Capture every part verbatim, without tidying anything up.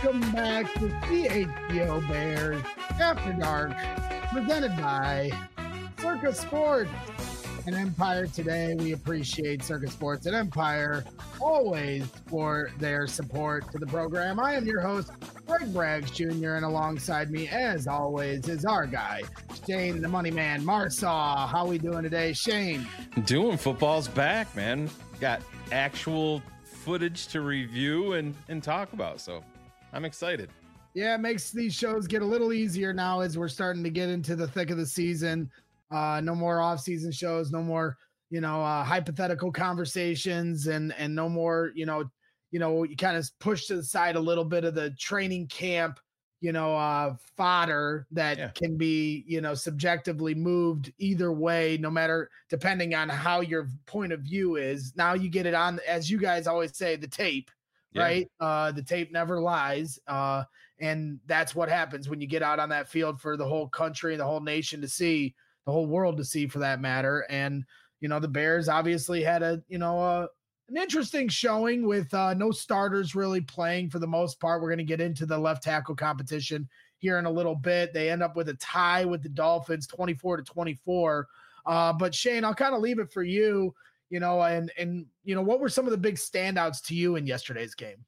Welcome back to C H G O Bears After Dark, presented by Circus Sports and Empire. Today, we appreciate Circus Sports and Empire always for their support to the program. I am your host, Greg Braggs Junior, and alongside me, as always, is our guy, Shane the Money Man Marsaw. How we doing today, Shane? Doing football's back, man. Got actual footage to review and, and talk about, so I'm excited. Yeah, it makes these shows get a little easier now as we're starting to get into the thick of the season. Uh, no more off-season shows, no more, you know, uh, hypothetical conversations, and and no more, you know, you know, you kind of push to the side a little bit of the training camp, you know, uh, fodder that Yeah. can be, you know, subjectively moved either way, no matter depending on how your point of view is. Now you get it on, as you guys always say, the tape. Yeah. Right. Uh, the tape never lies. Uh, and that's what happens when you get out on that field for the whole country and the whole nation to see, the whole world to see for that matter. And, you know, the Bears obviously had a, you know, uh, an interesting showing with uh, no starters really playing for the most part. We're going to get into the left tackle competition here in a little bit. They end up with a tie with the Dolphins, twenty-four to twenty-four. Uh, but Shane, I'll kind of leave it for you. You know, and, and, you know, what were some of the big standouts to you in yesterday's game?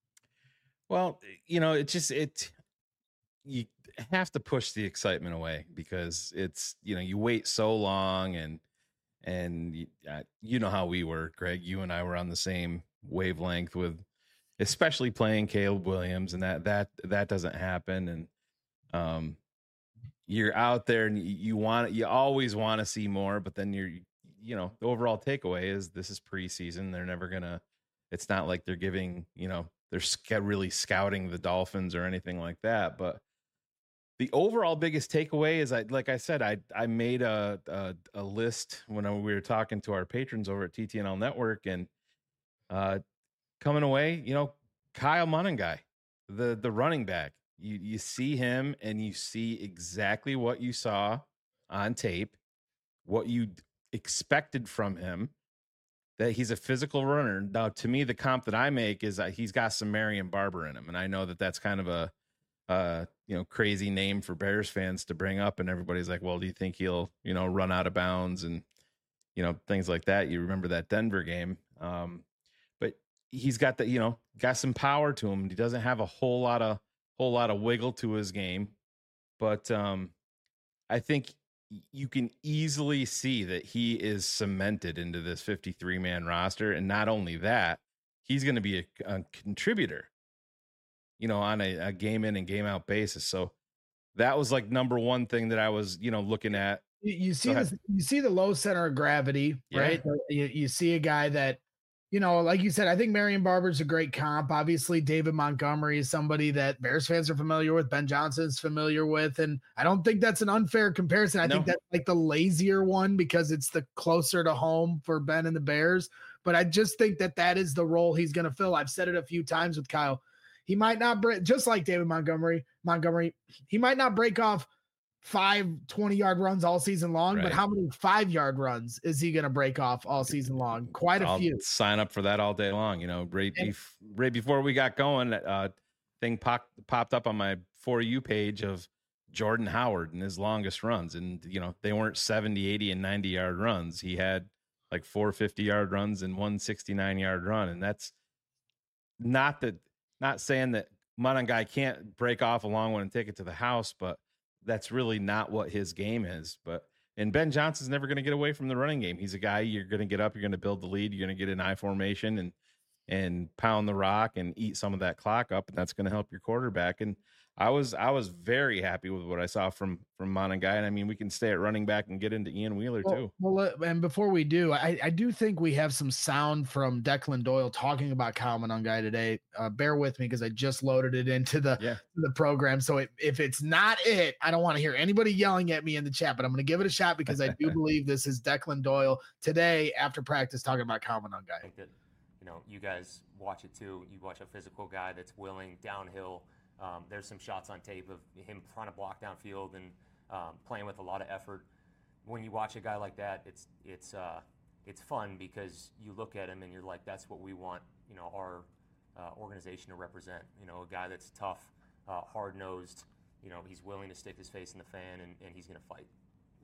Well, you know, it just, it, you have to push the excitement away because it's, you know, you wait so long and, and you, uh, you know how we were, Greg, you and I were on the same wavelength with, especially playing Caleb Williams, and that, that, that doesn't happen. And, um, you're out there and you, you want, you always want to see more, but then you're, you know, the overall takeaway is this is preseason. They're never gonna, it's not like they're giving, you know, they're sc- really scouting the Dolphins or anything like that. But the overall biggest takeaway is, I, like I said, I, I made a, a, a list when I, we were talking to our patrons over at T T N L Network, and uh, coming away, you know, Kyle Monangai, the, the running back, you, you see him and you see exactly what you saw on tape, what you expected from him, that he's a physical runner. Now, to me, the comp that I make is that he's got some Marion Barber in him. And I know that that's kind of a, uh, you know, crazy name for Bears fans to bring up. And everybody's like, well, do you think he'll, you know, run out of bounds and, you know, things like that. You remember that Denver game. Um, but he's got that, you know, got some power to him. He doesn't have a whole lot of, whole lot of wiggle to his game. But um, I think you can easily see that he is cemented into this fifty-three man roster. And not only that, he's going to be a, a contributor, you know, on a, a game in and game out basis. So that was like number one thing that I was, you know, looking at. You, you see this, you see the low center of gravity, Yeah. right? You, you see a guy that, you know, like you said, I think Marion Barber's a great comp. Obviously, David Montgomery is somebody that Bears fans are familiar with. Ben Johnson's familiar with. And I don't think that's an unfair comparison. I No. think that's like the lazier one because it's the closer to home for Ben and the Bears. But I just think that that is the role he's going to fill. I've said it a few times with Kyle. He might not break, just like David Montgomery, Montgomery, he might not break off five twenty-yard runs all season long, Right. but how many five-yard runs is he going to break off all season long? Quite a I'll few. sign up for that all day long. You know, right, And- bef- right before we got going, uh, thing pop- popped up on my For You page of Jordan Howard and his longest runs. And, you know, they weren't seventy, eighty, and ninety-yard runs. He had like four fifty-yard runs and one sixty-nine-yard run. And that's not that, not saying that Monangai can't break off a long one and take it to the house, but that's really not what his game is. But and Ben Johnson's never going to get away from the running game. He's a guy you're going to get up, you're going to build the lead, you're going to get in I formation and and pound the rock and eat some of that clock up, and that's going to help your quarterback. And I was I was very happy with what I saw from from Monangai. And I mean, we can stay at running back and get into Ian Wheeler well, too. Well, uh, and before we do, I, I do think we have some sound from Declan Doyle talking about Kyle Monangai today. Uh, bear with me because I just loaded it into the Yeah. the program. So it, if it's not it, I don't want to hear anybody yelling at me in the chat, but I'm going to give it a shot because I do believe this is Declan Doyle today after practice talking about Kyle I Monangai. think that, you know, you guys watch it too. You watch a physical guy that's willing downhill. Um, there's some shots on tape of him trying to block downfield and um, playing with a lot of effort. When you watch a guy like that, it's it's uh, it's fun because you look at him and you're like, that's what we want, you know, our uh, organization to represent. You know, a guy that's tough, uh, hard-nosed. You know, he's willing to stick his face in the fan, and, and he's going to fight.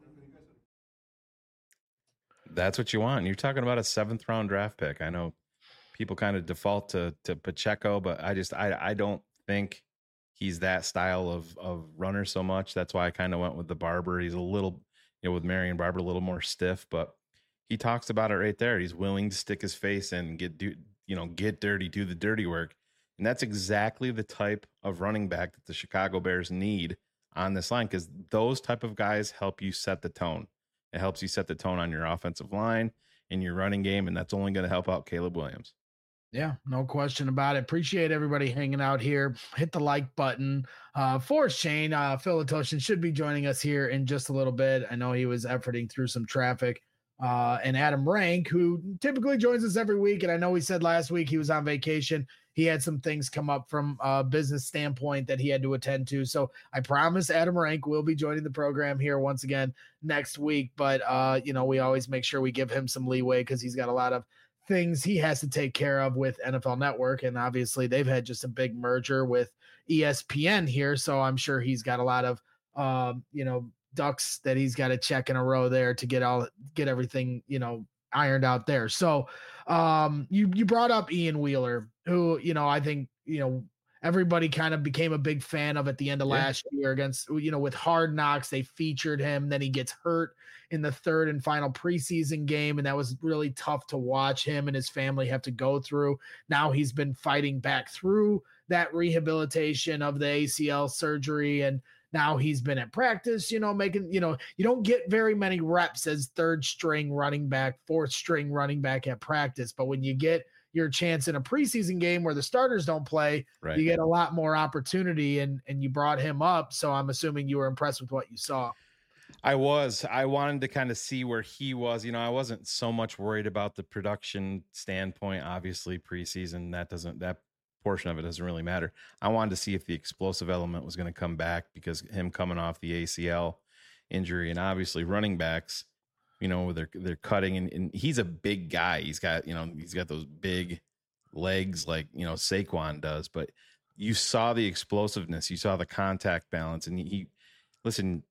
That's what you want. And you're talking about a seventh round draft pick. I know people kind of default to to Pacheco, but I just I I don't think he's that style of of runner so much. That's why I kind of went with the Barber. He's a little, you know, with Marion Barber, a little more stiff, but he talks about it right there. He's willing to stick his face in and get do you know get dirty, do the dirty work, and that's exactly the type of running back that the Chicago Bears need on this line, because those type of guys help you set the tone. It helps you set the tone on your offensive line and your running game, and that's only going to help out Caleb Williams. Yeah, no question about it. Appreciate everybody hanging out here. Hit the like button. Uh, Forrest Chain, uh, Phil Latoshin should be joining us here in just a little bit. I know he was efforting through some traffic. Uh, and Adam Rank, who typically joins us every week. And I know he said last week he was on vacation. He had some things come up from a business standpoint that he had to attend to. So I promise Adam Rank will be joining the program here once again next week. But, uh, you know, we always make sure we give him some leeway because he's got a lot of things he has to take care of with N F L Network. And obviously they've had just a big merger with E S P N here. So I'm sure he's got a lot of, um, you know, ducks that he's got to check in a row there to get all, get everything, you know, ironed out there. So um, you, you brought up Ian Wheeler, who, you know, I think, you know, everybody kind of became a big fan of at the end of yeah. last year against, you know, with Hard Knocks, they featured him, then he gets hurt in the third and final preseason game. And that was really tough to watch him and his family have to go through. Now he's been fighting back through that rehabilitation of the A C L surgery. And now he's been at practice, you know, making, you know, you don't get very many reps as third string running back, fourth string running back at practice. But when you get your chance in a preseason game where the starters don't play, right, you get a lot more opportunity, and, and you brought him up. So I'm assuming you were impressed with what you saw. I was, I wanted to kind of see where he was. You know, I wasn't so much worried about the production standpoint. Obviously preseason, that doesn't, that portion of it doesn't really matter. I wanted to see if the explosive element was going to come back, because him coming off the A C L injury, and obviously running backs, you know, they're, they're cutting, and, and he's a big guy. He's got, you know, he's got those big legs like, you know, Saquon does, but you saw the explosiveness, you saw the contact balance. And he, he listen,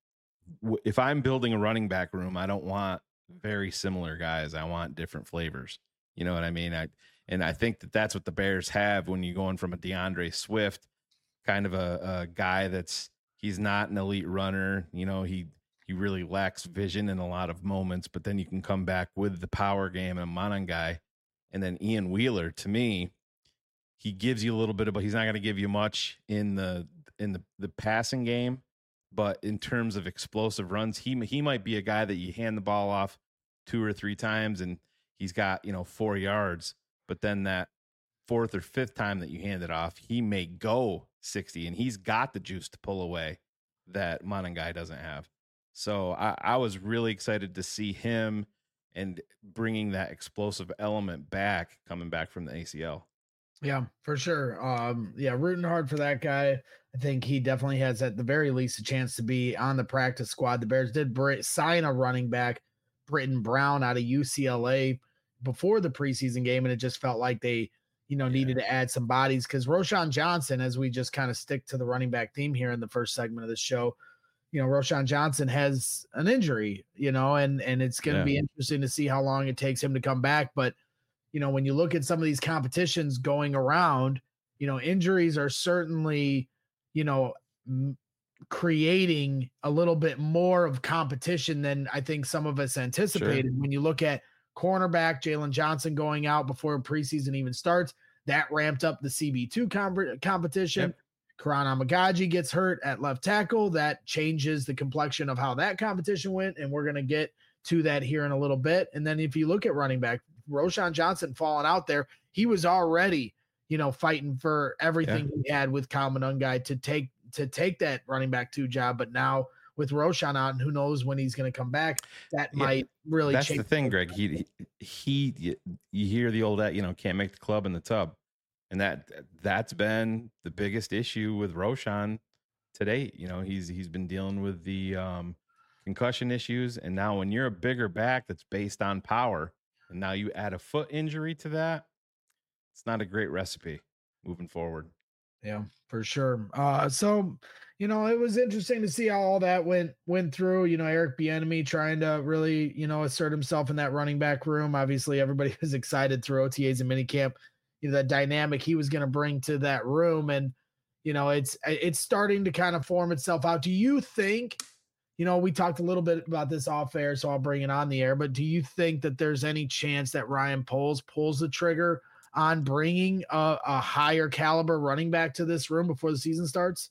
if I'm building a running back room, I don't want very similar guys. I want different flavors. You know what I mean? I, and I think that that's what the Bears have when you're going from a DeAndre Swift, kind of a, a guy that's, he's not an elite runner. You know, he, he really lacks vision in a lot of moments, but then you can come back with the power game and a Manan guy. And then Ian Wheeler, to me, he gives you a little bit of, but he's not going to give you much in the, in the, the passing game. But in terms of explosive runs, he, he might be a guy that you hand the ball off two or three times and he's got, you know, four yards. But then that fourth or fifth time that you hand it off, he may go sixty, and he's got the juice to pull away that Manan guy doesn't have. So I, I was really excited to see him and bringing that explosive element back, coming back from the A C L. Yeah, for sure. Um, yeah, rooting hard for that guy. I think he definitely has, at the very least, a chance to be on the practice squad. The Bears did br- sign a running back, Britton Brown, out of U C L A before the preseason game, and it just felt like they, you know, yeah. needed to add some bodies, because Roschon Johnson, as we just kind of stick to the running back theme here in the first segment of the show, you know, Roschon Johnson has an injury, you know, and, and it's going to yeah. be interesting to see how long it takes him to come back. But, you know, when you look at some of these competitions going around, you know, injuries are certainly, you know, m- creating a little bit more of competition than I think some of us anticipated. Sure. When you look at cornerback Jalen Johnson going out before preseason even starts, that ramped up the C B two com- competition. Yep. Karan Amagaji gets hurt at left tackle. That changes the complexion of how that competition went, and we're going to get to that here in a little bit. And then if you look at running back, Roschon Johnson falling out there, he was already, you know, fighting for everything yeah. he had with Kyle Monangai to take to take that running back two job. But now with Roschon out, and who knows when he's going to come back, that yeah. might really That's change. the thing, Greg. He, he, he, you hear the old, you know, can't make the club in the tub. And that that's been the biggest issue with Roschon today. You know, he's he's been dealing with the um, concussion issues, and now when you're a bigger back that's based on power, and now you add a foot injury to that, it's not a great recipe. moving forward. Yeah, for sure. Uh, so, you know, it was interesting to see how all that went went through. You know, Eric Bieniemy trying to really, you know, assert himself in that running back room. Obviously, everybody was excited through O T As and minicamp. You know, that dynamic he was going to bring to that room, and you know, it's it's starting to kind of form itself out. Do you think? You know, we talked a little bit about this off air, so I'll bring it on the air. But do you think that there's any chance that Ryan Poles pulls the trigger on bringing a, a higher caliber running back to this room before the season starts?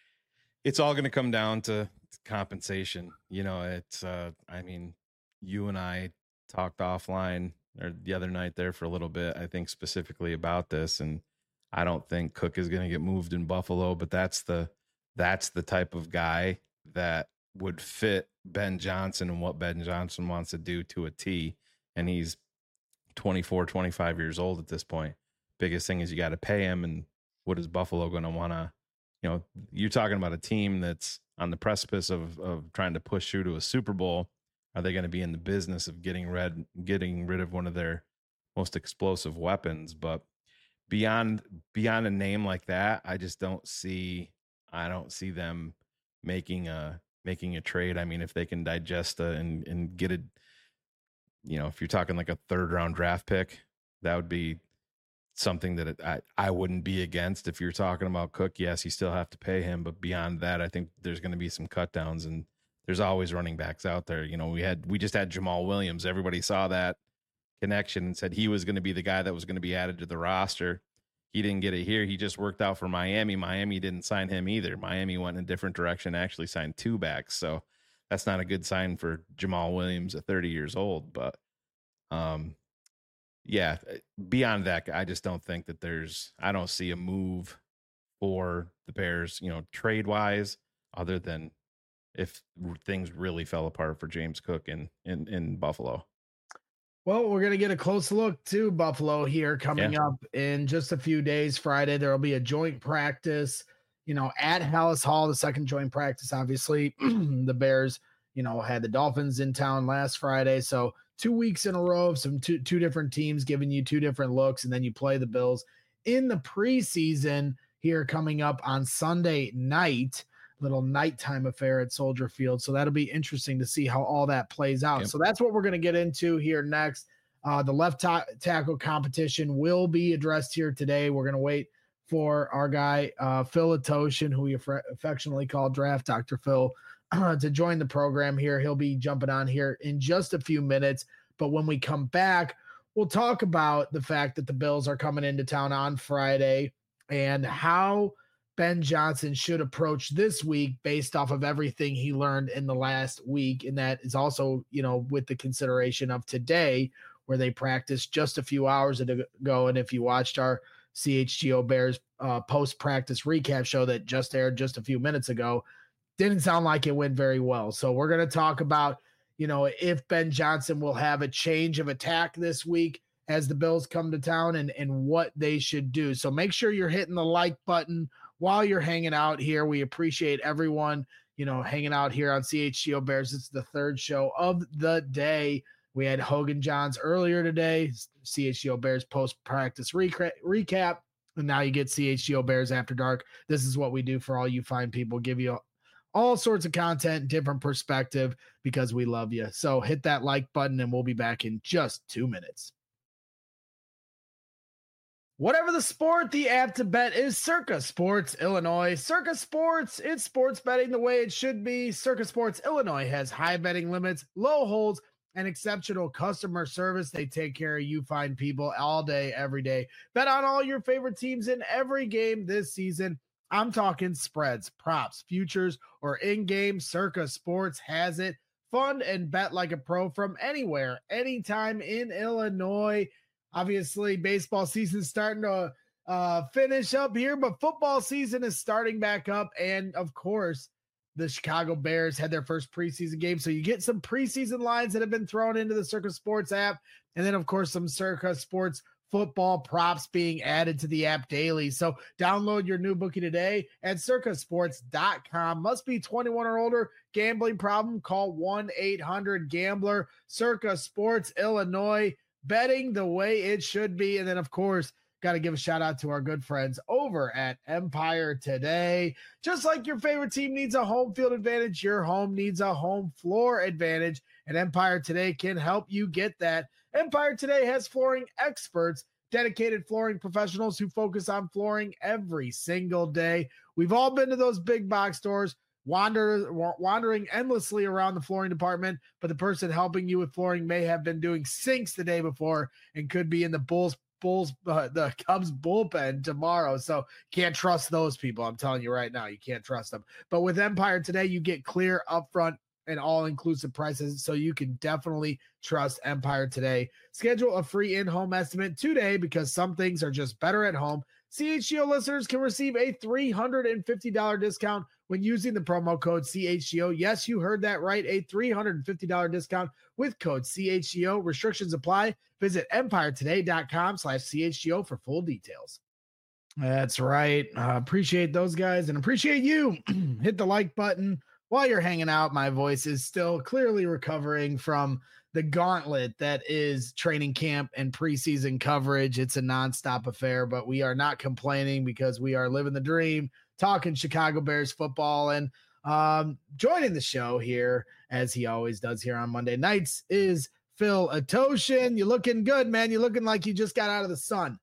It's all going to come down to compensation. You know, it's, uh, I mean, you and I talked offline or the other night there for a little bit, I think specifically about this. And I don't think Cook is going to get moved in Buffalo, but that's the, that's the type of guy that would fit Ben Johnson and what Ben Johnson wants to do to a T. And he's twenty-four, twenty-five years old at this point. Biggest thing is you got to pay him. And what is Buffalo going to want to, you know, you're talking about a team that's on the precipice of, of trying to push through to a Super Bowl. Are they going to be in the business of getting rid, getting rid of one of their most explosive weapons? But beyond, beyond a name like that, I just don't see, I don't see them making a, making a trade. I mean, if they can digest a, and, and get it, you know, if you're talking like a third round draft pick, that would be something that it, I, I wouldn't be against. If you're talking about Cook, yes, you still have to pay him. But beyond that, I think there's going to be some cut downs, and there's always running backs out there. You know, we had, we just had Jamal Williams. Everybody saw that connection and said he was going to be the guy that was going to be added to the roster. He didn't get it here. He just worked out for Miami. Miami didn't sign him either. Miami went in a different direction, actually signed two backs. So that's not a good sign for Jamal Williams at thirty years old. But um, yeah, beyond that, I just don't think that there's, I don't see a move for the Bears, you know, trade wise, other than if things really fell apart for James Cook in, in, in Buffalo. Well, we're going to get a close look to Buffalo here coming yeah. up in just a few days. Friday, there will be a joint practice, you know, at Hallis Hall, the second joint practice. Obviously, the Bears, you know, had the Dolphins in town last Friday. So two weeks in a row of some two, two different teams giving you two different looks. And then you play the Bills in the preseason here coming up on Sunday night. Little nighttime affair at Soldier Field. So that'll be interesting to see how all that plays out. Yep. So that's what we're going to get into here next. Uh, the left ta- tackle competition will be addressed here today. We're going to wait for our guy, uh, Phil Atoshin, who we aff- affectionately call Draft Doctor Phil, uh, to join the program here. He'll be jumping on here in just a few minutes. But when we come back, we'll talk about the fact that the Bills are coming into town on Friday and how Ben Johnson should approach this week based off of everything he learned in the last week. And that is also, you know, with the consideration of today, where they practiced just a few hours ago. And if you watched our C H G O Bears uh, post-practice recap show that just aired just a few minutes ago, didn't sound like it went very well. So we're going to talk about, you know, if Ben Johnson will have a change of attack this week as the Bills come to town, and, and what they should do. So make sure you're hitting the like button while you're hanging out here. We appreciate everyone, you know, hanging out here on C H G O Bears. It's the third show of the day. We had Hogan Johns earlier today, C H G O Bears post-practice reca- recap, and now you get C H G O Bears After Dark. This is what we do for all you fine people, give you all sorts of content, different perspective, because we love you. So hit that like button, and we'll be back in just two minutes. Whatever the sport, the app to bet is Circa Sports Illinois. Circa Sports, it's sports betting the way it should be. Circa Sports Illinois has high betting limits, low holds, and exceptional customer service. They take care of you fine people all day, every day. Bet on all your favorite teams in every game this season. I'm talking spreads, props, futures, or in-game. Circa Sports has it. Fund and bet like a pro from anywhere, anytime in Illinois. Obviously, baseball season is starting to uh, finish up here, but football season is starting back up. And, of course, the Chicago Bears had their first preseason game. So you get some preseason lines that have been thrown into the Circa Sports app. And then, of course, some Circa Sports football props being added to the app daily. So download your new bookie today at circa sports dot com. Must be twenty-one or older. Gambling problem? Call one eight hundred gambler. Circa Sports Illinois. Betting the way it should be. And then, of course, got to give a shout out to our good friends over at Empire Today. Just like your favorite team needs a home field advantage, your home needs a home floor advantage, and Empire Today can help you get that. Empire Today has flooring experts, dedicated flooring professionals who focus on flooring every single day. We've all been to those big box stores, wander, wandering endlessly around the flooring department, but the person helping you with flooring may have been doing sinks the day before and could be in the Bulls Bulls uh, the Cubs bullpen tomorrow. So can't trust those people. I'm telling you right now, you can't trust them. But with Empire Today, you get clear upfront and all-inclusive prices, so you can definitely trust Empire Today. Schedule a free in-home estimate today because some things are just better at home. C H G O listeners can receive a three hundred fifty dollars discount when using the promo code C H G O. Yes, you heard that right, a three hundred fifty dollars discount with code C H G O. Restrictions apply. Visit empiretoday.com slash CHGO for full details. That's right. Uh, appreciate those guys and appreciate you. Hit the like button while you're hanging out. My voice is still clearly recovering from the gauntlet that is training camp and preseason coverage. It's a nonstop affair, but we are not complaining because we are living the dream, talking Chicago Bears football. And um, joining the show here, as he always does here on Monday nights, is Phil Atoshin. You looking good, man. You looking like you just got out of the sun.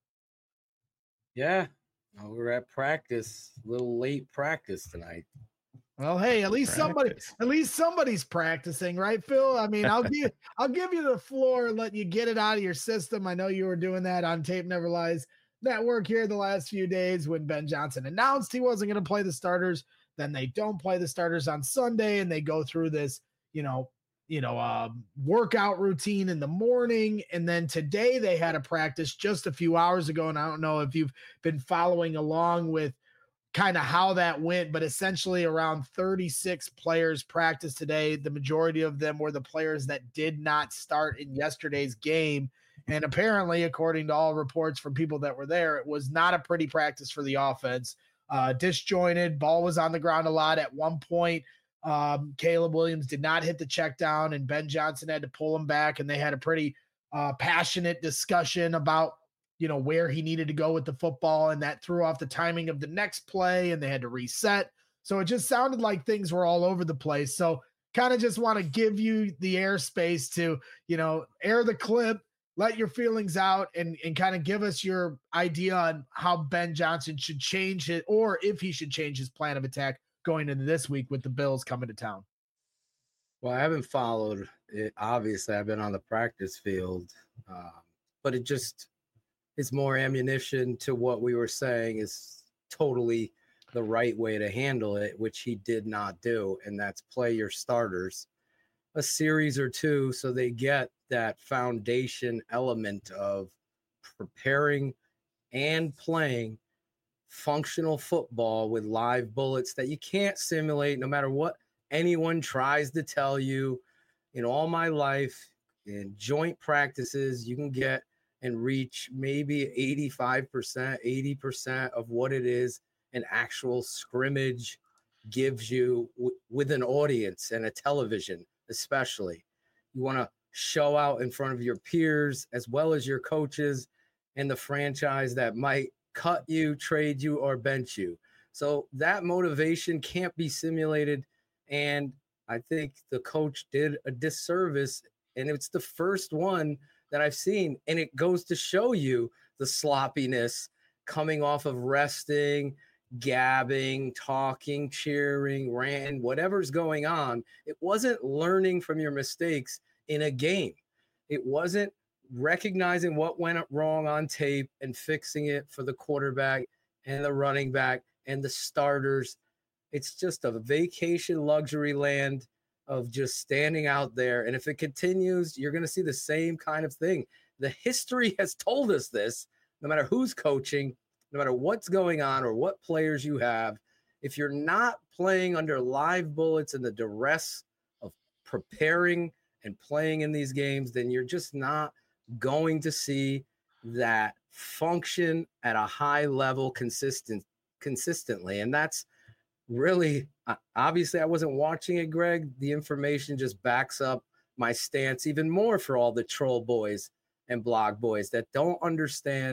Yeah, we're at practice, a little late practice tonight. Well, hey, at least Practice. somebody, at least somebody's practicing, right, Phil? I mean, I'll give, I'll give you the floor and let you get it out of your system. I know you were doing that on Tape Never Lies Network here the last few days when Ben Johnson announced he wasn't going to play the starters. Then they don't play the starters on Sunday, and they go through this, you know, you know, uh, workout routine in the morning, and then today they had a practice just a few hours ago, and I don't know if you've been following along with kind of how that went, but essentially around thirty-six players practiced today. The majority of them were the players that did not start in yesterday's game. And apparently, according to all reports from people that were there, it was not a pretty practice for the offense. Uh, disjointed, ball was on the ground a lot. At one point, um, Caleb Williams did not hit the check down, and Ben Johnson had to pull him back, and they had a pretty uh, passionate discussion about, you know, where he needed to go with the football, and that threw off the timing of the next play, and they had to reset. So it just sounded like things were all over the place. So kind of just want to give you the airspace to, you know, air the clip, let your feelings out, and, and kind of give us your idea on how Ben Johnson should change it, or if he should change his plan of attack going into this week with the Bills coming to town. Well, I haven't followed it. Obviously, I've been on the practice field, um, but it just is more ammunition to what we were saying is totally the right way to handle it, which he did not do, and that's play your starters a series or two so they get that foundation element of preparing and playing functional football with live bullets that you can't simulate no matter what anyone tries to tell you. In all my life, in joint practices, you can get and reach maybe eighty-five percent, eighty percent of what it is an actual scrimmage gives you w- with an audience and a television, especially. You want to show out in front of your peers as well as your coaches and the franchise that might cut you, trade you, or bench you. So that motivation can't be simulated. And I think the coach did a disservice, and it's the first one that I've seen. And it goes to show you the sloppiness coming off of resting, gabbing, talking, cheering, ranting, whatever's going on. It wasn't learning from your mistakes in a game. It wasn't recognizing what went wrong on tape and fixing it for the quarterback and the running back and the starters. It's just a vacation luxury land of just standing out there. And if it continues, you're going to see the same kind of thing. The history has told us this, no matter who's coaching, no matter what's going on or what players you have, if you're not playing under live bullets and the duress of preparing and playing in these games, then you're just not going to see that function at a high level consistent consistently. And that's really, obviously I wasn't watching it, Greg. The information just backs up my stance even more for all the troll boys and blog boys that don't understand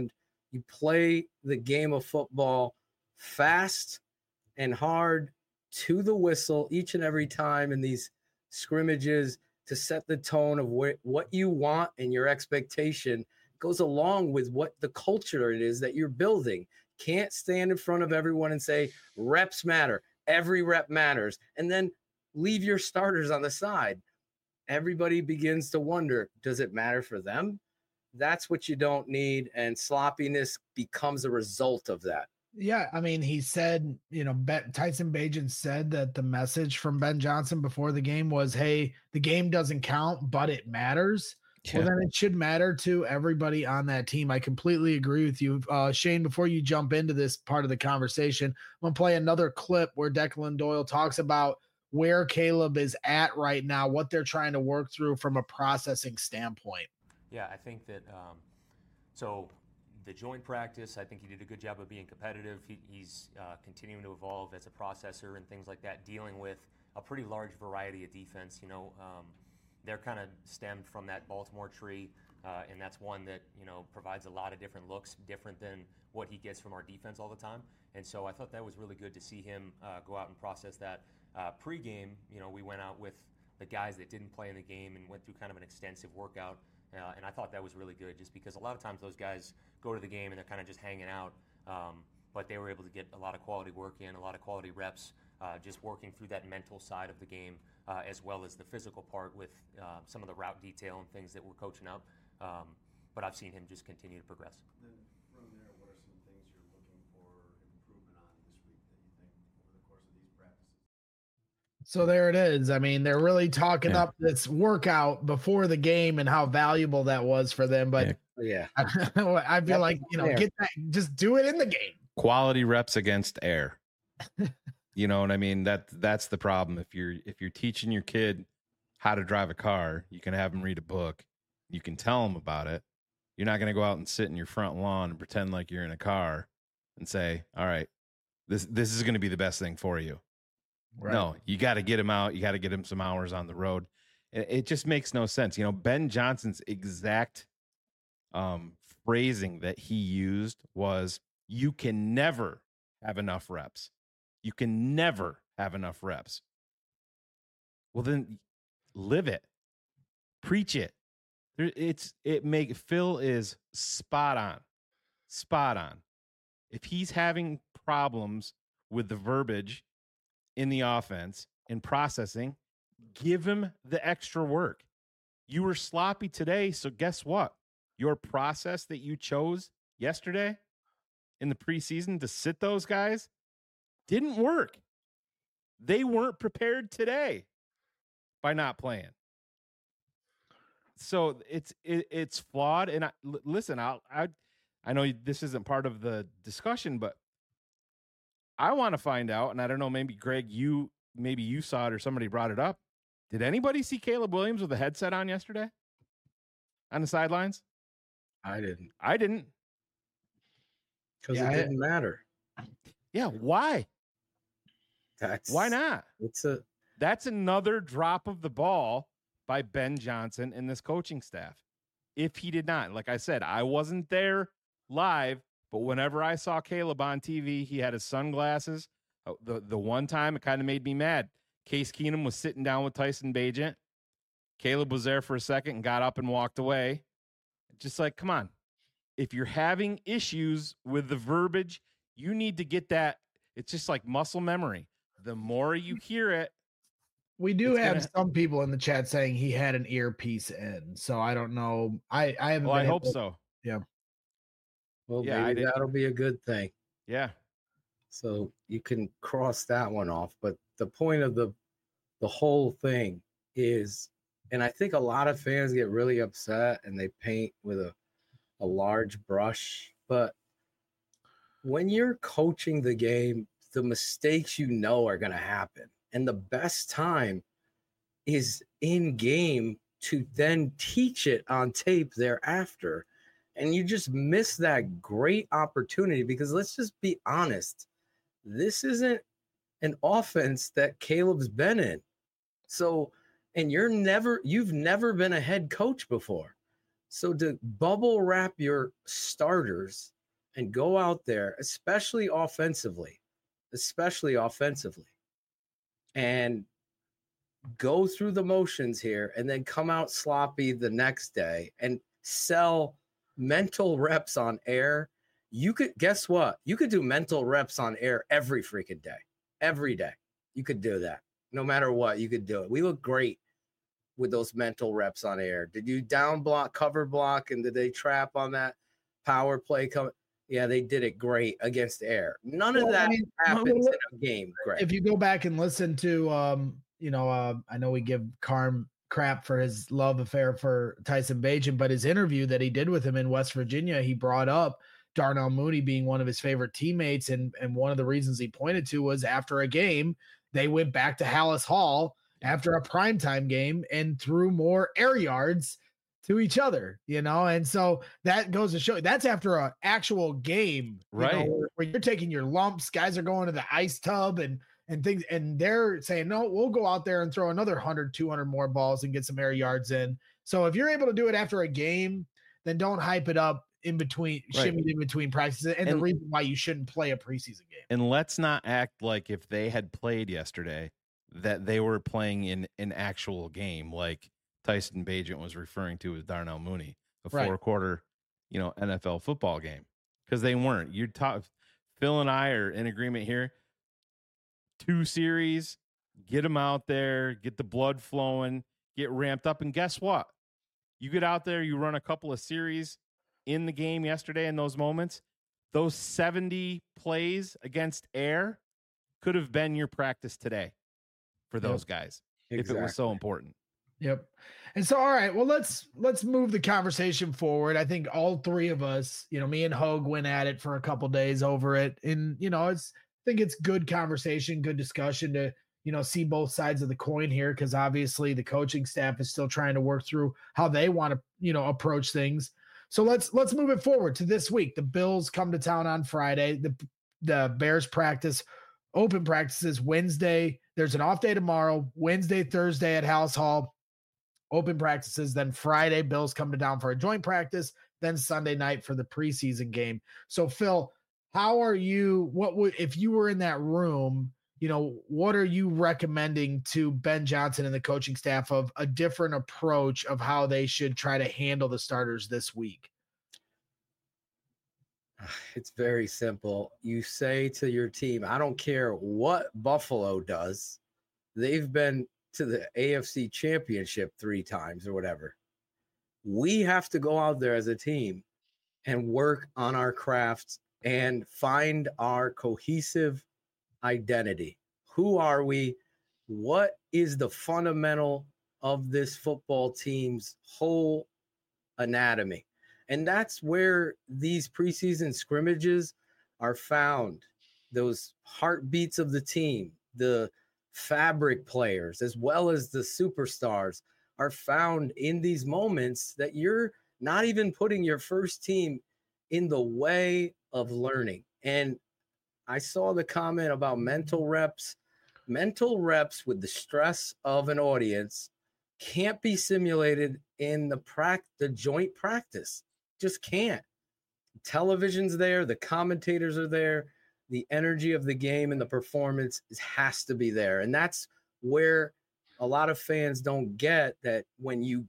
You play the game of football fast and hard to the whistle each and every time in these scrimmages to set the tone of wh- what you want, and your expectation goes along with what the culture it is that you're building. Can't stand in front of everyone and say reps matter. Every rep matters. And then leave your starters on the side. Everybody begins to wonder, does it matter for them? That's what you don't need. And sloppiness becomes a result of that. Yeah, I mean, he said, you know, Ben, Tyson Bagent said that the message from Ben Johnson before the game was, hey, the game doesn't count, but it matters. Yeah. Well, then it should matter to everybody on that team. I completely agree with you. Uh, Shane, before you jump into this part of the conversation, I'm going to play another clip where Declan Doyle talks about where Caleb is at right now, what they're trying to work through from a processing standpoint. Yeah, I think that um, so the joint practice, I think he did a good job of being competitive. He, he's uh, continuing to evolve as a processor and things like that, dealing with a pretty large variety of defense. You know, um, they're kind of stemmed from that Baltimore tree, uh, and that's one that, you know, provides a lot of different looks, different than what he gets from our defense all the time. And so I thought that was really good to see him uh, go out and process that. Uh, pre-game, you know, we went out with the guys that didn't play in the game and went through kind of an extensive workout. Uh, and I thought that was really good, just because a lot of times those guys go to the game and they're kind of just hanging out. Um, but they were able to get a lot of quality work in, a lot of quality reps, uh, just working through that mental side of the game, uh, as well as the physical part with uh, some of the route detail and things that we're coaching up. Um, but I've seen him just continue to progress. Then from there, what are some things you're looking for improvement on this week that you think over the course of these practices? So there it is. I mean, they're really talking yeah. up this workout before the game and how valuable that was for them. But yeah, I, I feel That's like, you know, fair. get that, just do it in the game. Quality reps against air. You know what I mean? That that's the problem. If you're if you're teaching your kid how to drive a car, you can have them read a book. You can tell them about it. You're not going to go out and sit in your front lawn and pretend like you're in a car and say, "All right, this this is going to be the best thing for you." Right. No, you got to get him out. You got to get him some hours on the road. It, it just makes no sense. You know, Ben Johnson's exact um, phrasing that he used was, "You can never have enough reps. You can never have enough reps." Well, then live it, preach it. It's it make Phil is spot on, spot on. If he's having problems with the verbiage in the offense and processing, give him the extra work. You were sloppy today, so guess what? Your process that you chose yesterday in the preseason to sit those guys didn't work. They weren't prepared today by not playing. So it's it, it's flawed. And I, l- listen, I'll, I I know this isn't part of the discussion, but I want to find out. And I don't know, maybe Greg, you maybe you saw it or somebody brought it up. Did anybody see Caleb Williams with a headset on yesterday on the sidelines? I didn't. I didn't. Because Yeah, it I- didn't matter. Yeah, why? That's Why not? It's a That's another drop of the ball by Ben Johnson and this coaching staff. If he did not, like I said, I wasn't there live, but whenever I saw Caleb on T V, he had his sunglasses. The, the one time it kind of made me mad. Case Keenum was sitting down with Tyson Bagent. Caleb was there for a second and got up and walked away. Just like, come on. If you're having issues with the verbiage, you need to get that. It's just like muscle memory. The more you hear it, We do It's have gonna- some people in the chat saying he had an earpiece in, so I don't know. I I haven't. well, I been hope able- so. well, Yeah, I maybe did- that'll be a good thing. Yeah. So you can cross that one off. But the point of the the whole thing is, and I think a lot of fans get really upset and they paint with a, a large brush. But when you're coaching the game, the mistakes you know are going to happen. And the best time is in game to then teach it on tape thereafter. And you just miss that great opportunity, because let's just be honest. This isn't an offense that Caleb's been in. So, and you're never, you've never been a head coach before. So to bubble wrap your starters and go out there, especially offensively, especially offensively, and go through the motions here and then come out sloppy the next day and sell mental reps on air. You could, guess what? You could do mental reps on air every freaking day, every day. You could do that no matter what. You could do it. We look great with those mental reps on air. Did you down block, cover block, and did they trap on that power play? Come, yeah, they did it great against air. None of Well, that I mean, happens well, in a game, Greg. if you go back and listen to, um, you know, uh, I know we give Carm crap for his love affair for Tyson Bagent, but his interview that he did with him in West Virginia, he brought up Darnell Mooney being one of his favorite teammates. And, and one of the reasons he pointed to was after a game, they went back to Hallis Hall after a primetime game and threw more air yards to each other, you know? And so that goes to show that's after an actual game, right? You know, where, where you're taking your lumps, guys are going to the ice tub and, and things, and they're saying, no, we'll go out there and throw another one hundred, two hundred more balls and get some air yards in. So if you're able to do it after a game, then don't hype it up in between, right. shimmy in between practices. And, and the reason why you shouldn't play a preseason game. And let's not act like if they had played yesterday that they were playing in an actual game, like Tyson Bagent was referring to as Darnell Mooney, a Right. four quarter, you know, N F L football game. Because they weren't. You're talking, Phil and I are in agreement here. Two series, get them out there, get the blood flowing, get ramped up. And guess what? You get out there, you run a couple of series in the game yesterday in those moments. Those seventy plays against air could have been your practice today for those yep. guys exactly. if it was so important. Yep. And so, all right, well, let's, let's move the conversation forward. I think all three of us, you know, me and Hogue went at it for a couple days over it. And, you know, it's, I think it's good conversation, good discussion to, you know, see both sides of the coin here. Cause obviously the coaching staff is still trying to work through how they want to, you know, approach things. So let's, let's move it forward to this week. The Bills come to town on Friday. The, the Bears practice, open practices Wednesday. There's an off day tomorrow, Wednesday, Thursday at Hallis Hall. Open practices, then Friday, Bills come to down for a joint practice, then Sunday night for the preseason game. So, Phil, how are you, what would, if you were in that room, you know, what are you recommending to Ben Johnson and the coaching staff of a different approach of how they should try to handle the starters this week? It's very simple. You say to your team, I don't care what Buffalo does. They've been to the A F C Championship three times or whatever. We have to go out there as a team and work on our crafts and find our cohesive identity. Who are we? What is the fundamental of this football team's whole anatomy? And that's where these preseason scrimmages are found. Those heartbeats of the team, the fabric players, as well as the superstars, are found in these moments that you're not even putting your first team in the way of learning. And I saw the comment about mental reps. Mental reps with the stress of an audience can't be simulated in the prac- the joint practice. Just can't. Television's there, the commentators are there, the energy of the game and the performance is, has to be there. And that's where a lot of fans don't get that when you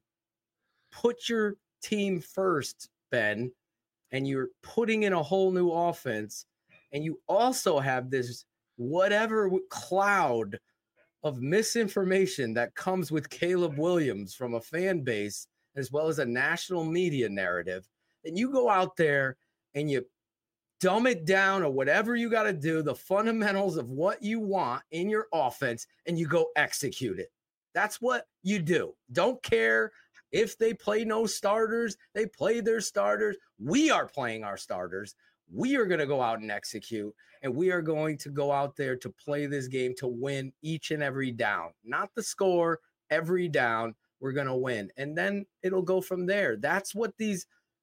put your team first, Ben, and you're putting in a whole new offense, and you also have this whatever cloud of misinformation that comes with Caleb Williams from a fan base, as well as a national media narrative, and you go out there and you dumb it down or whatever you got to do, the fundamentals of what you want in your offense, and you go execute it. That's what you do. Don't care if they play no starters, they play their starters. We are playing our starters. We are going to go out and execute, and we are going to go out there to play this game to win each and every down, not the score, every down. We're going to win, and then it'll go from there. That's what these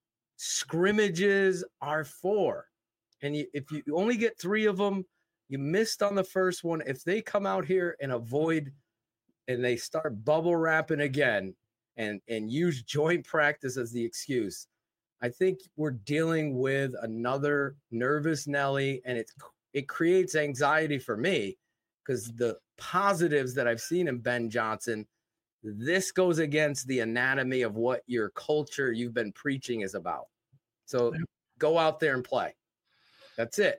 scrimmages are for. And you, if you only get three of them, you missed on the first one. If they come out here and avoid and they start bubble wrapping again and, and use joint practice as the excuse, I think we're dealing with another nervous Nelly, and it's it creates anxiety for me because the positives that I've seen in Ben Johnson, this goes against the anatomy of what your culture you've been preaching is about. So go out there and play. That's it.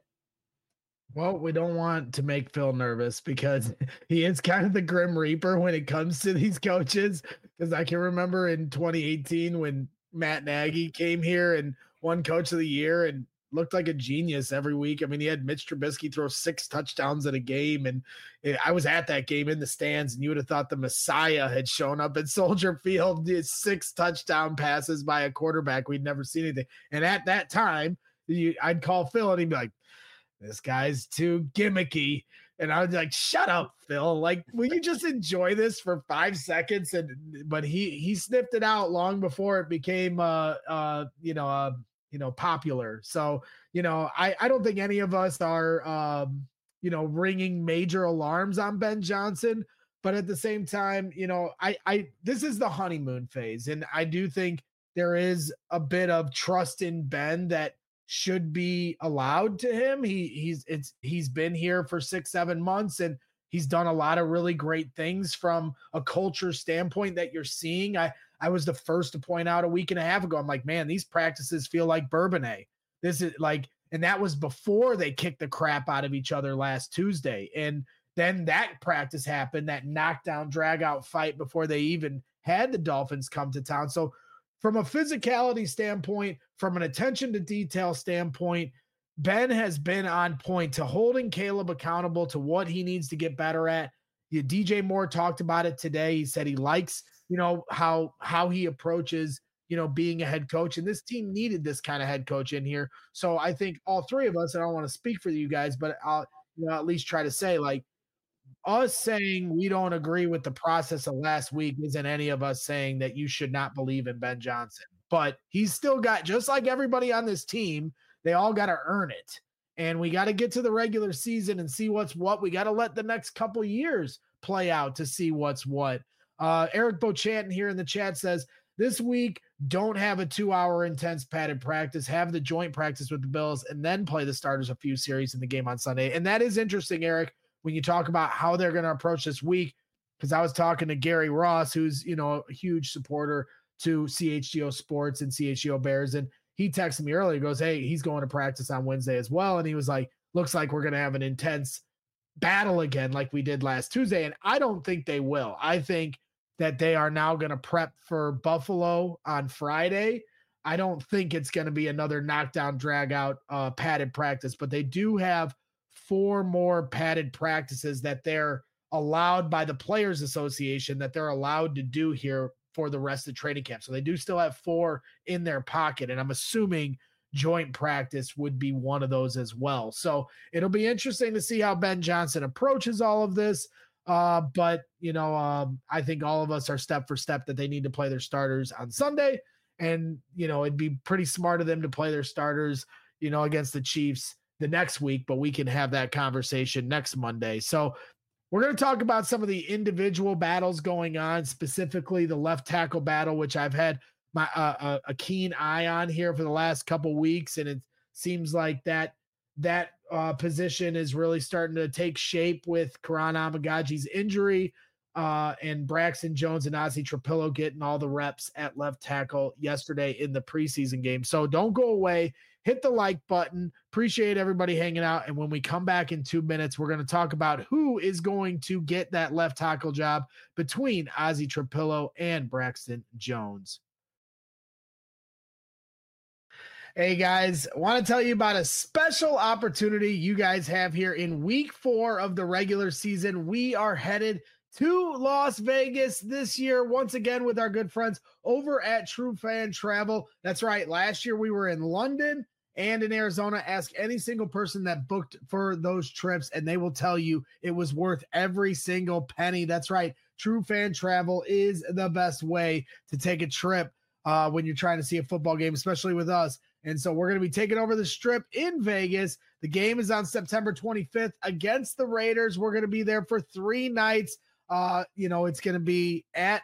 Well, we don't want to make Phil nervous because he is kind of the Grim Reaper when it comes to these coaches. Because I can remember in twenty eighteen when Matt Nagy came here and won Coach of the Year and looked like a genius every week. I mean, he had Mitch Trubisky throw six touchdowns in a game, and I was at that game in the stands, and you would have thought the Messiah had shown up at Soldier Field. Did six touchdown passes by a quarterback we'd never seen anything. And at that time, you, I'd call Phil, and he'd be like, "This guy's too gimmicky." And I was like, "Shut up, Phil. Like, will you just enjoy this for five seconds?" And but he he sniffed it out long before it became uh uh you know uh you know popular. So you know I I don't think any of us are um you know ringing major alarms on Ben Johnson, but at the same time, you know I I this is the honeymoon phase, and I do think there is a bit of trust in Ben that should be allowed to him. He he's it's he's been here for six, seven months and he's done a lot of really great things from a culture standpoint that you're seeing. I I was the first to point out a week and a half ago. I'm like, man, these practices feel like Bourbonnais. This is like, and that was before they kicked the crap out of each other last Tuesday. And then that practice happened, that knockdown drag out fight before they even had the Dolphins come to town. So from a physicality standpoint, from an attention to detail standpoint, Ben has been on point to holding Caleb accountable to what he needs to get better at. Yeah, D J Moore talked about it today. He said he likes, you know, how how he approaches, you know, being a head coach. And this team needed this kind of head coach in here. So I think all three of us, and I don't want to speak for you guys, but I'll, you know, at least try to say, like, us saying we don't agree with the process of last week isn't any of us saying that you should not believe in Ben Johnson. But he's still got, just like everybody on this team, they all got to earn it. And we got to get to the regular season and see what's what. We got to let the next couple years play out to see what's what. Uh, Eric Beauchamp here in the chat says, this week, don't have a two-hour intense padded practice. Have the joint practice with the Bills and then play the starters a few series in the game on Sunday. And that is interesting, Eric, when you talk about how they're going to approach this week, because I was talking to Gary Ross, who's, you know, a huge supporter to C H G O Sports and C H G O Bears. And he texted me earlier, goes, hey, he's going to practice on Wednesday as well. And he was like, looks like we're going to have an intense battle again like we did last Tuesday. And I don't think they will. I think that they are now going to prep for Buffalo on Friday. I don't think it's going to be another knockdown, drag out uh, padded practice, but they do have four more padded practices that they're allowed by the Players Association that they're allowed to do here for the rest of training camp. So they do still have four in their pocket. And I'm assuming joint practice would be one of those as well. So it'll be interesting to see how Ben Johnson approaches all of this. Uh, but, you know, um, I think all of us are step for step that they need to play their starters on Sunday. And, you know, it'd be pretty smart of them to play their starters, you know, against the Chiefs the next week, but we can have that conversation next Monday. So we're going to talk about some of the individual battles going on, specifically the left tackle battle, which I've had my uh, a keen eye on here for the last couple weeks. And it seems like that, that uh, position is really starting to take shape with Karan Amagaji's injury uh, and Braxton Jones and Ozzie Trapillo getting all the reps at left tackle yesterday in the preseason game. So don't go away. Hit the like button. Appreciate everybody hanging out. And when we come back in two minutes, we're going to talk about who is going to get that left tackle job between Ozzie Trapillo and Braxton Jones. Hey guys, I want to tell you about a special opportunity you guys have here in week four of the regular season. We are headed to Las Vegas this year, once again, with our good friends over at True Fan Travel. That's right. Last year we were in London and in Arizona. Ask any single person that booked for those trips, and they will tell you it was worth every single penny. That's right. True Fan Travel is the best way to take a trip uh, when you're trying to see a football game, especially with us. And so we're going to be taking over the Strip in Vegas. The game is on September twenty-fifth against the Raiders. We're going to be there for three nights. Uh, you know, it's going to be at,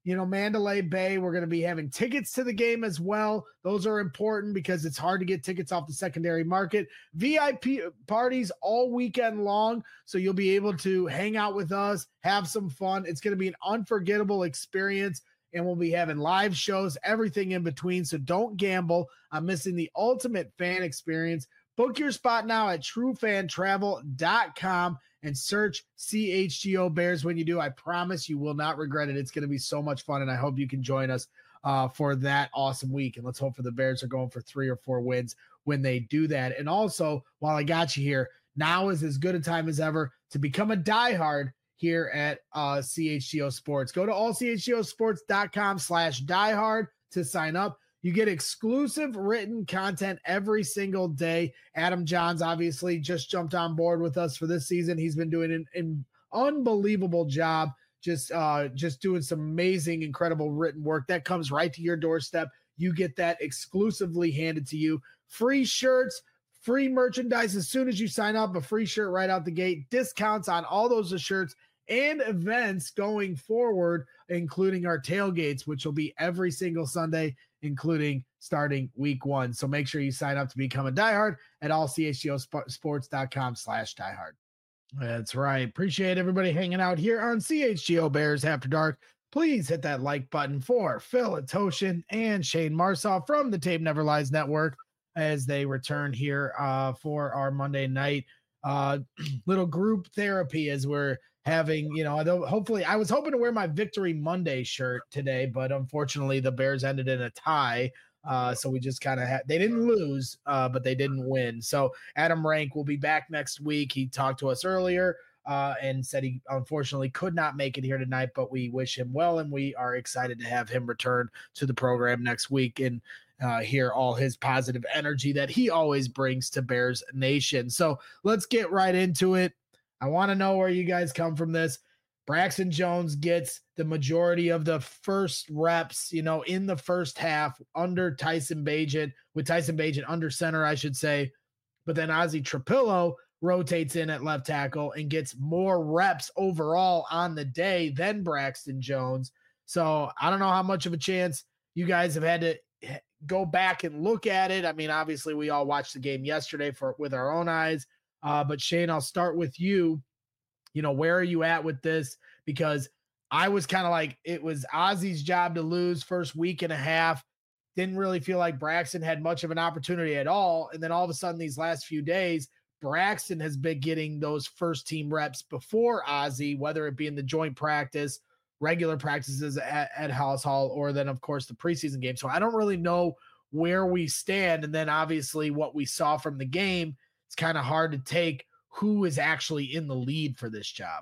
you know, Mandalay Bay, we're going to be having tickets to the game as well. Those are important because it's hard to get tickets off the secondary market. V I P parties all weekend long, so you'll be able to hang out with us, have some fun. It's going to be an unforgettable experience, and we'll be having live shows, everything in between. So don't gamble on missing the ultimate fan experience. Book your spot now at true fan travel dot com and search C H G O Bears when you do. I promise you will not regret it. It's going to be so much fun, and I hope you can join us uh, for that awesome week. And let's hope for the Bears are going for three or four wins when they do that. And also, while I got you here, now is as good a time as ever to become a diehard here at uh, C H G O Sports. Go to all C H G O sports dot com slash diehard to sign up. You get exclusive written content every single day. Adam Johns obviously just jumped on board with us for this season. He's been doing an, an unbelievable job, just uh, just doing some amazing, incredible written work that comes right to your doorstep. You get that exclusively handed to you. Free shirts, free merchandise as soon as you sign up, a free shirt right out the gate, discounts on all those shirts and events going forward, including our tailgates, which will be every single Sunday, including starting week one. So make sure you sign up to become a diehard at all C H G O sports dot com slash diehard. That's right. Appreciate everybody hanging out here on C H G O Bears After Dark. Please hit that like button for Phil Atoshin and Shane Marsaw from the Tape Never Lies Network as they return here uh, for our Monday night uh, little group therapy as we're having, you know, hopefully I was hoping to wear my Victory Monday shirt today, but unfortunately the Bears ended in a tie. Uh, so we just kind of had, they didn't lose, uh, but they didn't win. So Adam Rank will be back next week. He talked to us earlier uh, and said he unfortunately could not make it here tonight, but we wish him well. And we are excited to have him return to the program next week and uh, hear all his positive energy that he always brings to Bears Nation. So let's get right into it. I want to know where you guys come from this. Braxton Jones gets the majority of the first reps, you know, in the first half under Tyson Bagent, with Tyson Bagent under center, I should say. But then Ozzie Trapillo rotates in at left tackle and gets more reps overall on the day than Braxton Jones. So I don't know how much of a chance you guys have had to go back and look at it. I mean, obviously we all watched the game yesterday for with our own eyes. Uh, but Shane, I'll start with you. You know, where are you at with this? Because I was kind of like, it was Ozzie's job to lose first week and a half. Didn't really feel like Braxton had much of an opportunity at all. And then all of a sudden, these last few days, Braxton has been getting those first team reps before Ozzie, whether it be in the joint practice, regular practices at, at House Hall, or then, of course, the preseason game. So I don't really know where we stand. And then obviously what we saw from the game, it's kind of hard to take who is actually in the lead for this job.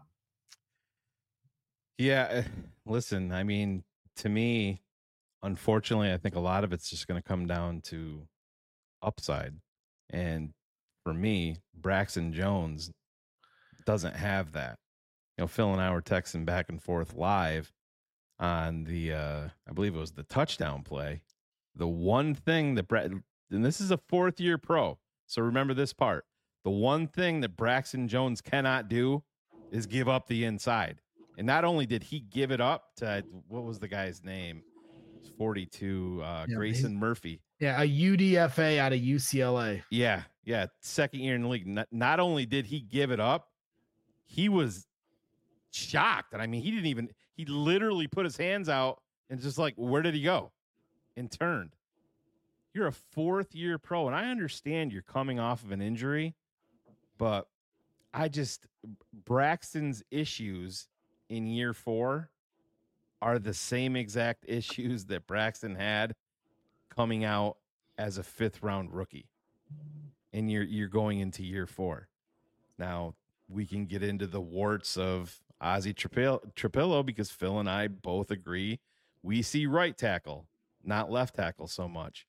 Yeah. Listen, I mean, to me, unfortunately, I think a lot of it's just going to come down to upside. And for me, Braxton Jones doesn't have that. You know, Phil and I were texting back and forth live on the, uh, I believe it was the touchdown play. The one thing that Brett, and this is a fourth year pro. So remember this part. The one thing that Braxton Jones cannot do is give up the inside. And not only did he give it up to, what was the guy's name? It's forty-two, uh, yeah, Grayson Murphy. Yeah, a U D F A out of U C L A. Yeah, yeah, second year in the league. Not, not only did he give it up, he was shocked. And I mean, he didn't even, he literally put his hands out and just like, where did he go? And turned. You're a fourth year pro, and I understand you're coming off of an injury, but I just, Braxton's issues in year four are the same exact issues that Braxton had coming out as a fifth round rookie. And you're, you're going into year four. Now we can get into the warts of Ozzie Trapillo, Trapillo because Phil and I both agree we see right tackle, not left tackle so much.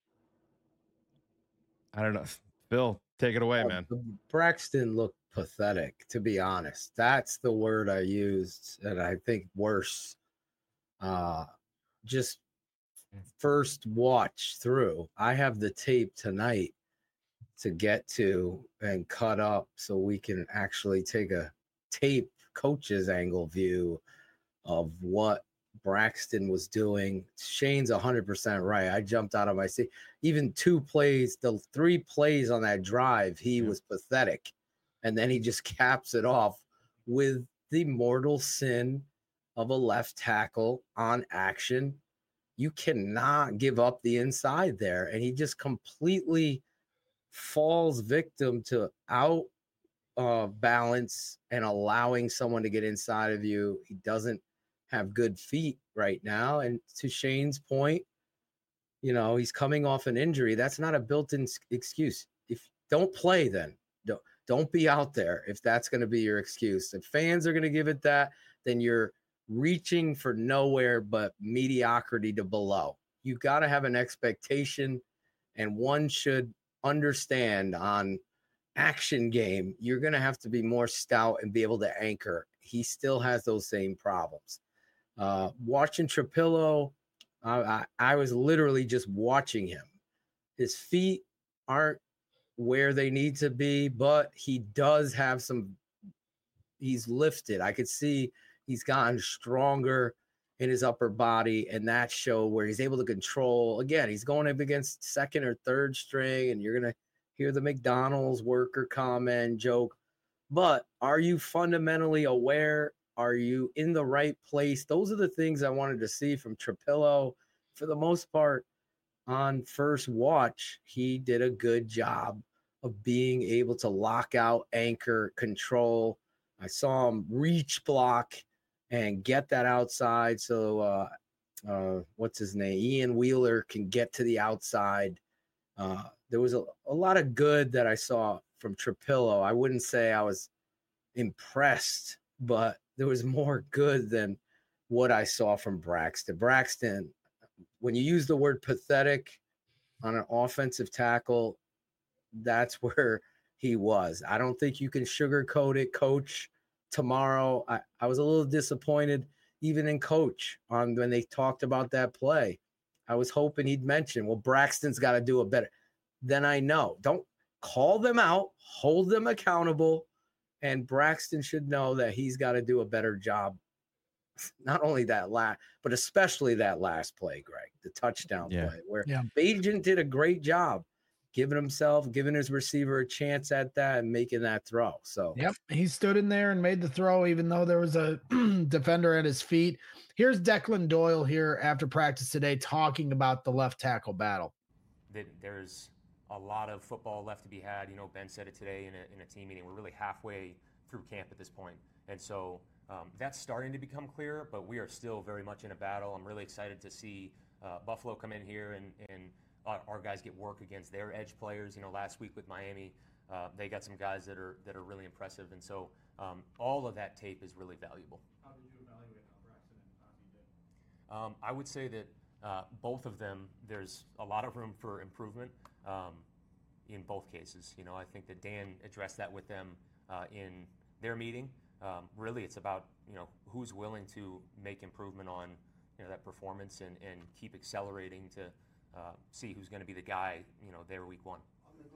I don't know. Phil, take it away, uh, man. Braxton looked pathetic, to be honest. That's the word I used, and I think worse. Uh, just first watch through. I have the tape tonight to get to and cut up so we can actually take a tape coach's angle view of what Braxton was doing. Shane's one hundred percent right. I jumped out of my seat. Even two plays, the three plays on that drive, he Yeah. was pathetic. And then he just caps it off with the mortal sin of a left tackle on action. You cannot give up the inside there. And he just completely falls victim to out uh, balance and allowing someone to get inside of you. He doesn't have good feet right now. And to Shane's point, you know, he's coming off an injury. That's not a built-in excuse. If don't play, then don't, don't be out there if that's going to be your excuse. If fans are going to give it that, then you're reaching for nowhere but mediocrity to below. You got to have an expectation, and one should understand on action game, you're going to have to be more stout and be able to anchor. He still has those same problems. Uh, watching Trapillo, I, I, I was literally just watching him. His feet aren't where they need to be, but he does have some, he's lifted. I could see he's gotten stronger in his upper body, and that show where he's able to control. Again, he's going up against second or third string, and you're going to hear the McDonald's worker comment, joke. But are you fundamentally aware? Are you in the right place? Those are the things I wanted to see from Trapillo. For the most part, on first watch, he did a good job of being able to lock out, anchor, control. I saw him reach block and get that outside. So, uh, uh, what's his name? Ian Wheeler can get to the outside. Uh, there was a, a lot of good that I saw from Trapillo. I wouldn't say I was impressed, but there was more good than what I saw from Braxton. Braxton, when you use the word pathetic on an offensive tackle, that's where he was. I don't think you can sugarcoat it, Coach. Tomorrow, I, I was a little disappointed even in Coach on when they talked about that play. I was hoping he'd mention, well, Braxton's got to do a better. Then I know. Don't call them out, hold them accountable, and Braxton should know that he's got to do a better job. Not only that last, but especially that last play, Greg, the touchdown Yeah. play, where Yeah. Bagent did a great job giving himself, giving his receiver a chance at that and making that throw. So, Yep, he stood in there and made the throw, even though there was a defender at his feet. Here's Declan Doyle here after practice today talking about the left tackle battle. That there's a lot of football left to be had. You know, Ben said it today in a, in a team meeting. We're really halfway through camp at this point. And so um, that's starting to become clear, but we are still very much in a battle. I'm really excited to see uh, Buffalo come in here and, and our, our guys get work against their edge players. You know, last week with Miami, uh, they got some guys that are that are really impressive. And so um, all of that tape is really valuable. How did you evaluate how Braxton and Ozzie did? Um, I would say that uh, both of them, there's a lot of room for improvement um, in both cases. You know, I think that Dan addressed that with them uh, in their meeting. Um, really, it's about, you know, who's willing to make improvement on, you know, that performance and, and keep accelerating to uh, see who's going to be the guy, you know, there week one.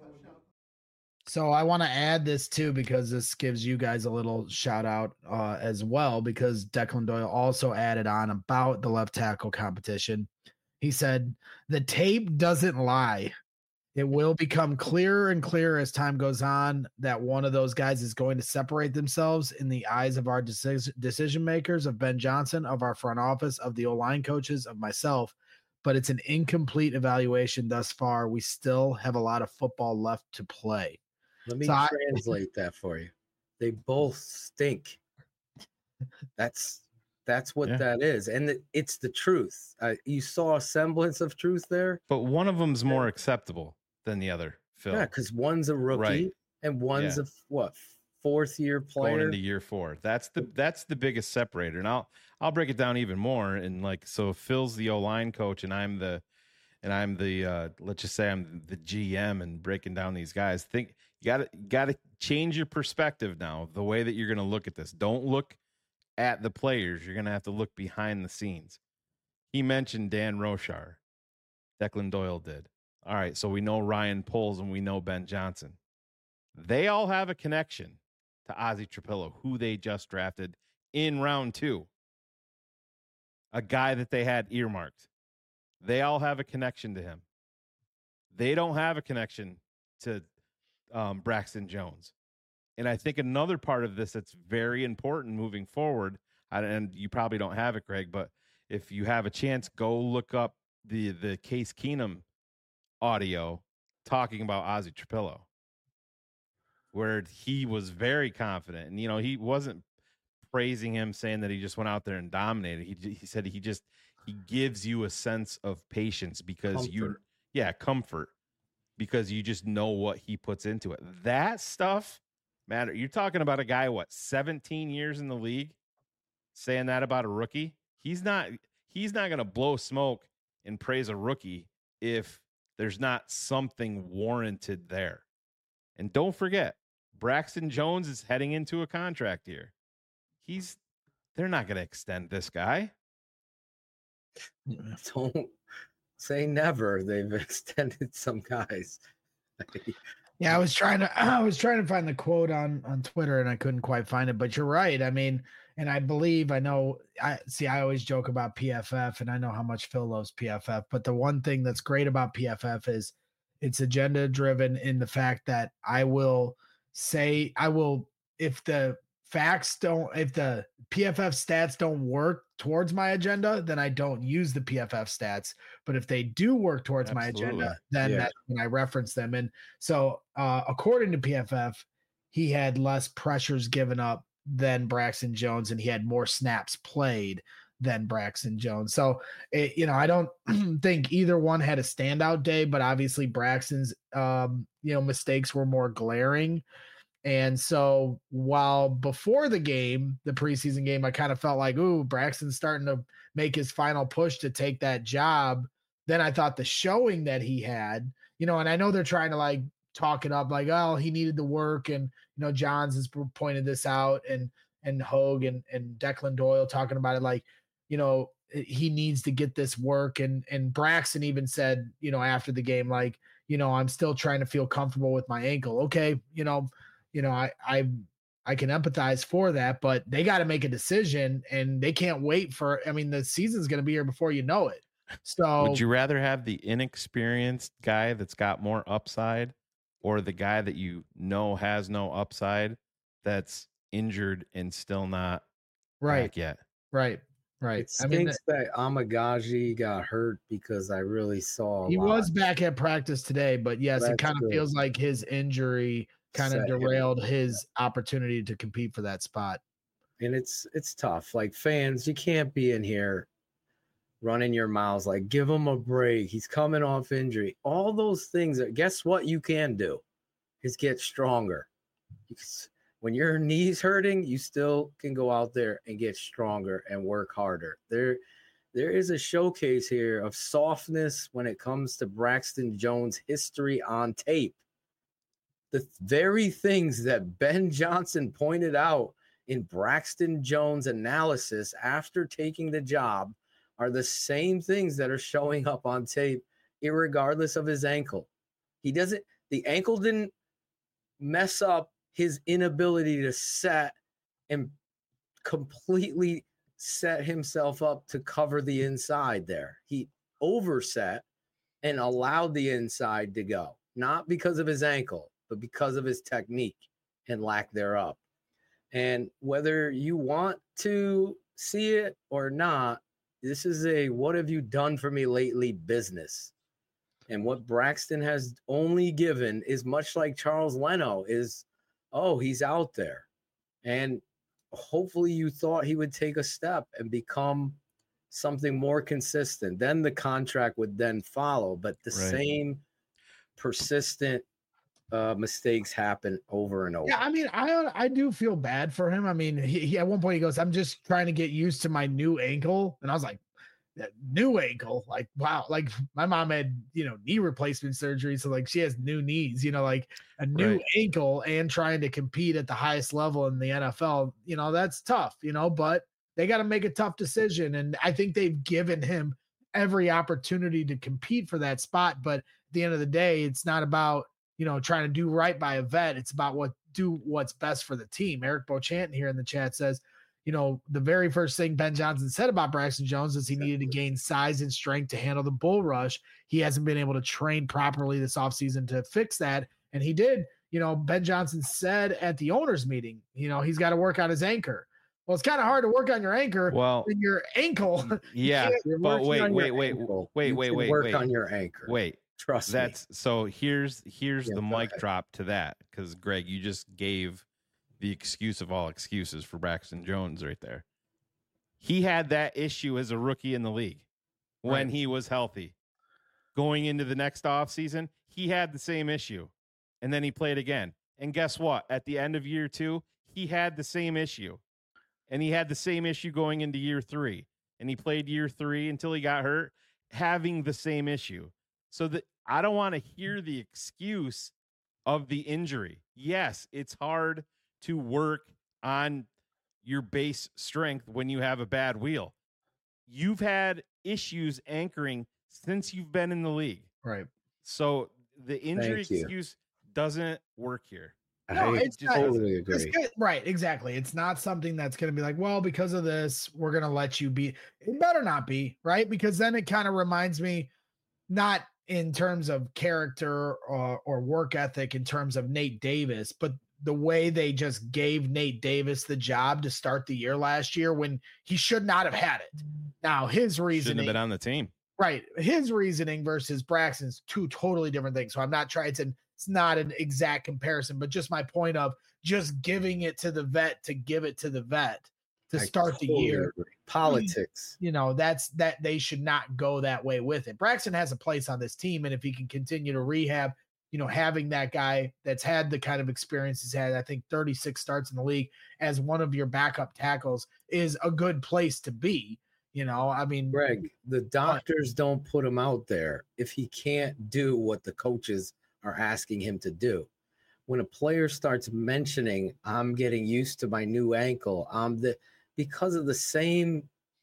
So I want to add this too, because this gives you guys a little shout out uh, as well, because Declan Doyle also added on about the left tackle competition. He said, the tape doesn't lie. It will become clearer and clearer as time goes on that one of those guys is going to separate themselves in the eyes of our decision decision makers, of Ben Johnson, of our front office, of the O-line coaches, of myself. But it's an incomplete evaluation thus far. We still have a lot of football left to play. let me So I- translate that for you. They both stink. That's that's what Yeah. that is, and it, it's the truth. Uh, you saw a semblance of truth there. But one of them's more acceptable than the other, Phil. Yeah, because one's a rookie Right. and one's Yeah. a what fourth year Going player. into year four. That's the that's the biggest separator. And I'll I'll break it down even more. And like, so Phil's the O-line coach and I'm the and I'm the uh let's just say I'm the G M and breaking down these guys. Think you gotta gotta change your perspective now, the way that you're gonna look at this. Don't look at the players, you're gonna have to look behind the scenes. He mentioned Dan Roshar. Declan Doyle did. All right, so we know Ryan Poles and we know Ben Johnson. They all have a connection to Ozzie Trapillo, who they just drafted in round two. a guy that they had earmarked. They all have a connection to him. They don't have a connection to um, Braxton Jones. And I think another part of this that's very important moving forward, and you probably don't have it, Greg, but if you have a chance, go look up the the Case Keenum audio talking about Ozzie Trapillo, where he was very confident. And, you know, he wasn't praising him, saying that he just went out there and dominated. He he said he just he gives you a sense of patience because comfort. you yeah, comfort because you just know what he puts into it. That stuff matter. You're talking about a guy, what, seventeen years in the league, saying that about a rookie. He's not he's not going to blow smoke and praise a rookie if there's not something warranted there. And don't forget, Braxton Jones is heading into a contract here. He's they're not going to extend this guy. Don't say never. They've extended some guys. Yeah, I was trying to I was trying to find the quote on on Twitter and I couldn't quite find it, but you're right. I mean, and I believe I know I see I always joke about P F F and I know how much Phil loves P F F, but the one thing that's great about P F F is it's agenda driven in the fact that I will say I will if the facts don't if the P F F stats don't work towards my agenda, then I don't use the P F F stats. But if they do work towards Absolutely. my agenda, then yeah. that's when I reference them. And so uh, according to P F F, he had less pressures given up than Braxton Jones, and he had more snaps played than Braxton Jones. So, it, you know, I don't think either one had a standout day, but obviously Braxton's, um, you know, mistakes were more glaring. And so while before the game, the preseason game, I kind of felt like, ooh, Braxton's starting to make his final push to take that job. Then I thought the showing that he had, you know, and I know they're trying to like talk it up like, oh, he needed the work. And, you know, Johns has pointed this out and, and Hogue and, and Declan Doyle talking about it. Like, you know, he needs to get this work. And, and Braxton even said, you know, after the game, like, you know, I'm still trying to feel comfortable with my ankle. Okay. You know, You know, I I I can empathize for that, but they got to make a decision and they can't wait for, I mean, the season's going to be here before you know it. So would you rather have the inexperienced guy that's got more upside or the guy that you know has no upside that's injured and still not right back yet? Right. Right. It stinks I mean, that Amagaji got hurt because I really saw a he lot. was back at practice today, but yes, That's it kind of good. feels like his injury kind of derailed his opportunity to compete for that spot. And it's it's tough. Like fans, you can't be in here running your mouths like, give him a break. He's coming off injury. All those things. That, guess what you can do is get stronger. When your knee's hurting, you still can go out there and get stronger and work harder. There, there is a showcase here of softness when it comes to Braxton Jones' history on tape. The very things that Ben Johnson pointed out in Braxton Jones' analysis after taking the job are the same things that are showing up on tape, irregardless of his ankle. He doesn't, the ankle didn't mess up his inability to set and completely set himself up to cover the inside there. He overset and allowed the inside to go, not because of his ankle, but because of his technique and lack thereof. And whether you want to see it or not, this is a what have you done for me lately business. And what Braxton has only given is much like Charles Leno is, oh, he's out there. And hopefully you thought he would take a step and become something more consistent. Then the contract would then follow. But the right. same persistent uh, mistakes happen over and over. Yeah, I mean, I I do feel bad for him. I mean, he, he at one point he goes, I'm just trying to get used to my new ankle. And I was like, new ankle, like wow, like my mom had, you know, knee replacement surgery, so like she has new knees, you know, like a new right. ankle and trying to compete at the highest level in the N F L, you know, that's tough, you know, but they got to make a tough decision, and I think they've given him every opportunity to compete for that spot. But at the end of the day, it's not about, you know, trying to do right by a vet. It's about what do what's best for the team. Eric Beauchamp here in the chat says, you know, the very first thing Ben Johnson said about Braxton Jones is he needed to gain size and strength to handle the bull rush. He hasn't been able to train properly this offseason to fix that. And he did, you know, Ben Johnson said at the owners meeting, you know, he's got to work on his anchor. Well, it's kind of hard to work on your anchor Well, when your ankle. Yeah, but wait, wait, wait, ankle, wait, you wait, can wait, work wait. on your anchor. Wait, Trust that's me. so here's here's Yeah, the go mic ahead. drop to that, because Greg, you just gave the excuse of all excuses for Braxton Jones right there. He had that issue as a rookie in the league when Right. he was healthy. Going into the next offseason, he had the same issue. And then he played again. And guess what? At the end of year two, he had the same issue. And he had the same issue going into year three. And he played year three until he got hurt, having the same issue. So that I don't want to hear the excuse of the injury. Yes, it's hard to work on your base strength when you have a bad wheel. You've had issues anchoring since you've been in the league. Right. So the injury Thank you. excuse doesn't work here. No, I it's not- totally It's agree. good. Right, exactly. It's not something that's going to be like, well, because of this, we're going to let you be. It better not be, right? Because then it kind of reminds me, not in terms of character or, or work ethic, in terms of Nate Davis, but the way they just gave Nate Davis the job to start the year last year when he should not have had it. Now, his Shouldn't reasoning, have been on the team. right, his reasoning versus Braxton's two totally different things. So I'm not trying to. It's not an exact comparison, but just my point of just giving it to the vet to give it to the vet to I start the totally year. agree. Politics. You know, that's that they should not go that way with it. Braxton has a place on this team, and if he can continue to rehab, you know, having that guy that's had the kind of experience he's had, I think thirty-six starts in the league as one of your backup tackles is a good place to be. You know, I mean, Greg, the doctors don't put him out there if he can't do what the coaches are asking him to do. When a player starts mentioning, I'm getting used to my new ankle, I'm the because of the same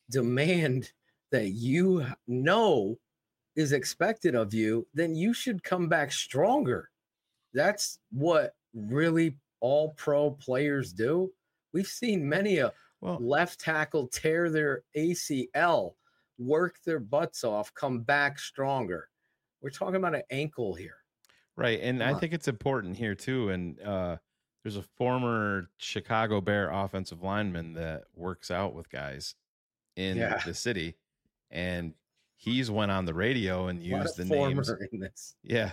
demand that you know is expected of you, then you should come back stronger. That's what really all pro players do. We've seen many a Well, left tackle tear their A C L, work their butts off, come back stronger. We're talking about an ankle here. right. And Come I on. think it's important here too. And uh, there's a former Chicago Bear offensive lineman that works out with guys in Yeah. the city. And he's went on the radio and A lot used the of names. former in this. Yeah.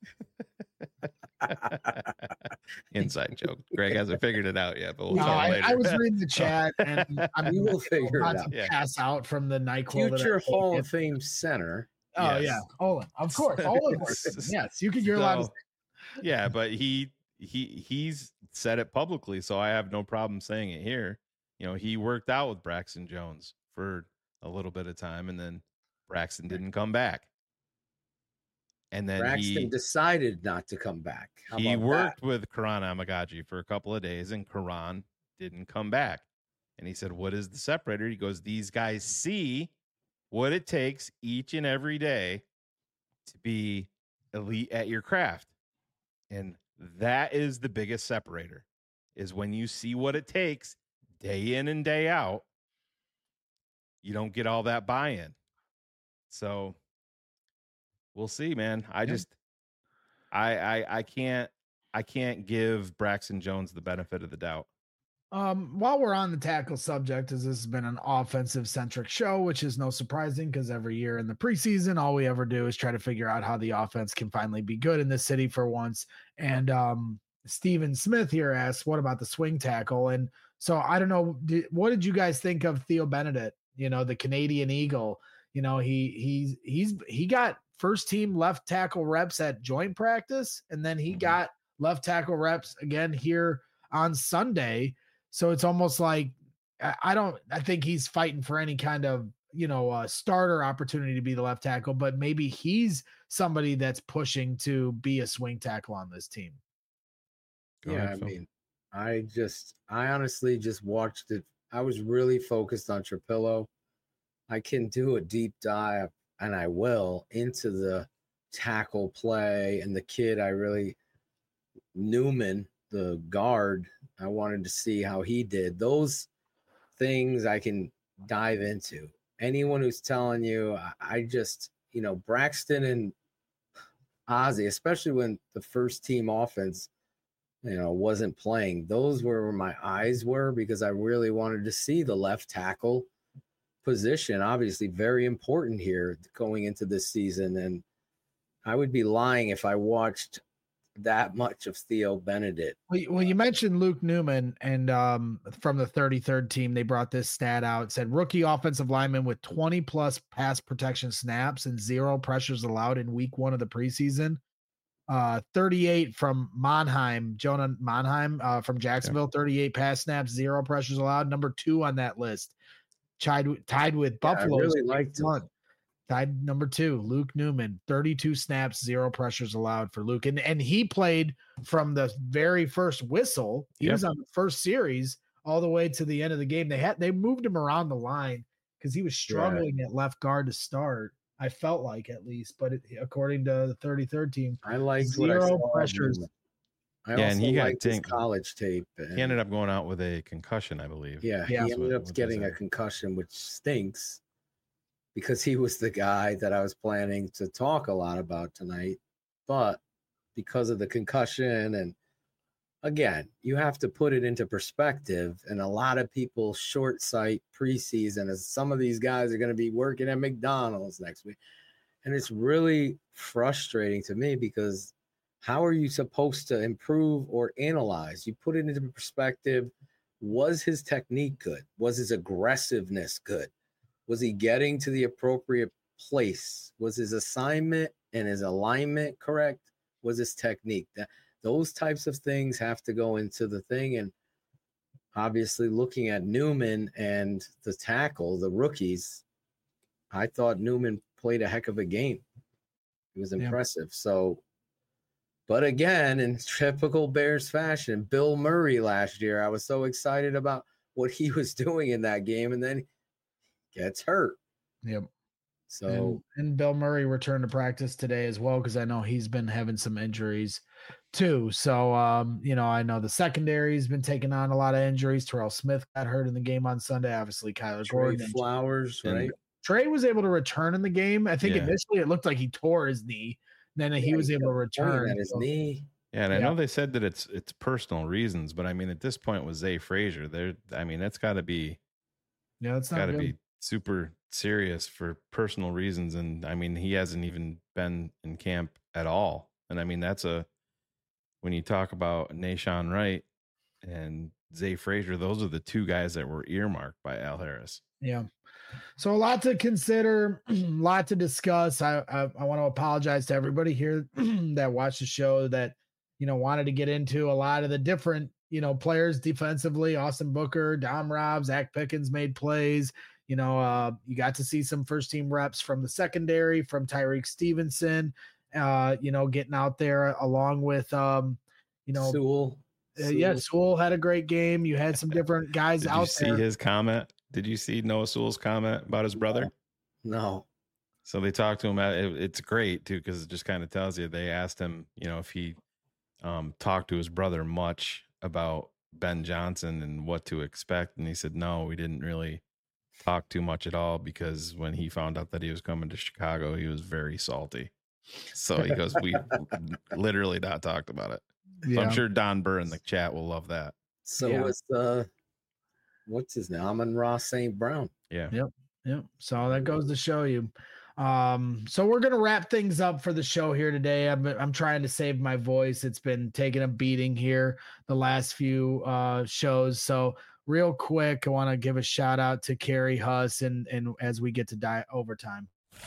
Inside joke. Greg hasn't figured it out yet, but we'll no, talk I, later. I was reading the chat and I'm We will figure it about out. to Yeah. pass out from the NyQuil. that I Future Hall taken. of Fame center. Oh Yes. yeah, Olin, of course, Olin. works. Yes, you can. You're allowed to. So, yeah, but he he he's said it publicly, so I have no problem saying it here. You know, he worked out with Braxton Jones for a little bit of time, and then Braxton didn't come back. And then Braxton he decided not to come back. How he about worked that? with Karan Amagaji for a couple of days, and Karan didn't come back. And he said, "What is the separator?" He goes, "These guys see what it takes each and every day to be elite at your craft. And that is the biggest separator, is when you see what it takes day in and day out, you don't get all that buy-in." So we'll see, man. I just, I, I, I can't, I can't give Braxton Jones the benefit of the doubt. Um, while we're on the tackle subject, as this has been an offensive centric show, which is no surprising because every year in the preseason, all we ever do is try to figure out how the offense can finally be good in this city for once. And um, Steven Smith here asks, what about the swing tackle? And so I don't know, did, what did you guys think of Theo Benedict? You know, the Canadian Eagle. You know, he he's he's he got first team left tackle reps at joint practice, and then he Mhm. got left tackle reps again here on Sunday. So it's almost like I I don't I think he's fighting for any kind of, you know, uh, starter opportunity to be the left tackle, but maybe he's somebody that's pushing to be a swing tackle on this team. Go Yeah, ahead, I Phil. mean, I just, I honestly just watched it. I was really focused on Trapillo. I can do a deep dive, and I will, into the tackle play and the kid. I really, Newman, the guard, I wanted to see how he did. Those things I can dive into. Anyone who's telling you, I, I just, you know, Braxton and Ozzie, especially when the first team offense, you know, wasn't playing, those were where my eyes were because I really wanted to see the left tackle position. Obviously, very important here going into this season. And I would be lying if I watched that much of Theo Benedict. Well, you- well, you mentioned Luke Newman, and um, from the thirty-third team, they brought this stat out. It said rookie offensive lineman with twenty plus pass protection snaps and zero pressures allowed in week one of the preseason. Uh, thirty-eight from Monheim, Jonah Monheim uh, from Jacksonville, thirty-eight pass snaps, zero pressures allowed. Number two on that list, tied, tied with Yeah, I Buffalo. really liked him. Tied number two, Luke Newman, thirty-two snaps, zero pressures allowed for Luke. And, and he played from the very first whistle. He Yep. was on the first series all the way to the end of the game. They had they moved him around the line because he was struggling at left guard to start. I felt like at least, but it, according to the thirty-third team, I liked what I zero saw of pressures. him. I Yeah, also and he got liked his dinged. college tape. And He ended up going out with a concussion, I believe. yeah, Yeah. he That's ended what- up what they getting a said. concussion, which stinks because he was the guy that I was planning to talk a lot about tonight. But because of the concussion, and again, you have to put it into perspective. And a lot of people short sight preseason as some of these guys are going to be working at McDonald's next week. And it's really frustrating to me because how are you supposed to improve or analyze? You put it into perspective. Was his technique good? Was his aggressiveness good? Was he getting to the appropriate place? Was his assignment and his alignment correct? Was his technique? That those types of things have to go into the thing. And obviously looking at Newman and the tackle, the rookies, I thought Newman played a heck of a game. It was Yeah. impressive. So, but again, in typical Bears fashion, Bill Murray last year, I was so excited about what he was doing in that game, and then gets hurt. Yep. So, and, and Bill Murray returned to practice today as well because I know he's been having some injuries too. So, um, you know, I know the secondary's been taking on a lot of injuries. Terrell Smith got hurt in the game on Sunday. Obviously, Kyler Trey Gordon. and Flowers, and- right? Trey was able to return in the game. I think Yeah. initially it looked like he tore his knee. Then he Yeah, was he able to kept pointing return. at his So- knee. Yeah, and I Yeah. know they said that it's it's personal reasons, but I mean, at this point with Zay Frazier, there, I mean, that's got to be Yeah, it's not got to good. be super serious for personal reasons, and I mean, he hasn't even been in camp at all, and I mean, that's a when you talk about Nashawn Wright and Zay Frazier, those are the two guys that were earmarked by Al Harris. Yeah. So a lot to consider, a lot to discuss. I, I I want to apologize to everybody here that watched the show that, you know, wanted to get into a lot of the different, you know, players defensively. Austin Booker, Dom Robb, Zach Pickens made plays. You know, uh, you got to see some first team reps from the secondary, from Tyreek Stevenson, uh, you know, getting out there along with, um, you know, Sewell. uh, yeah, Sewell. Sewell had a great game. You had some different guys Did out you see there. his comment? Did you see Noah Sewell's comment about his brother? No. So they talked to him. At, it, it's great too because it just kind of tells you. They asked him, you know, if he um, talked to his brother much about Ben Johnson and what to expect, and he said, "No, we didn't really talk too much at all because when he found out that he was coming to Chicago, he was very salty." So he goes, "We literally not talked about it." So Yeah. I'm sure Don Burr in the chat will love that. So Yeah. was uh what's his name? Amon Ross Saint Brown. Yeah. Yep. So that goes to show you. Um, so we're gonna wrap things up for the show here today. I'm I'm trying to save my voice. It's been taking a beating here the last few uh shows. So real quick, I want to give a shout out to Carrie Huss and and as we get to die overtime.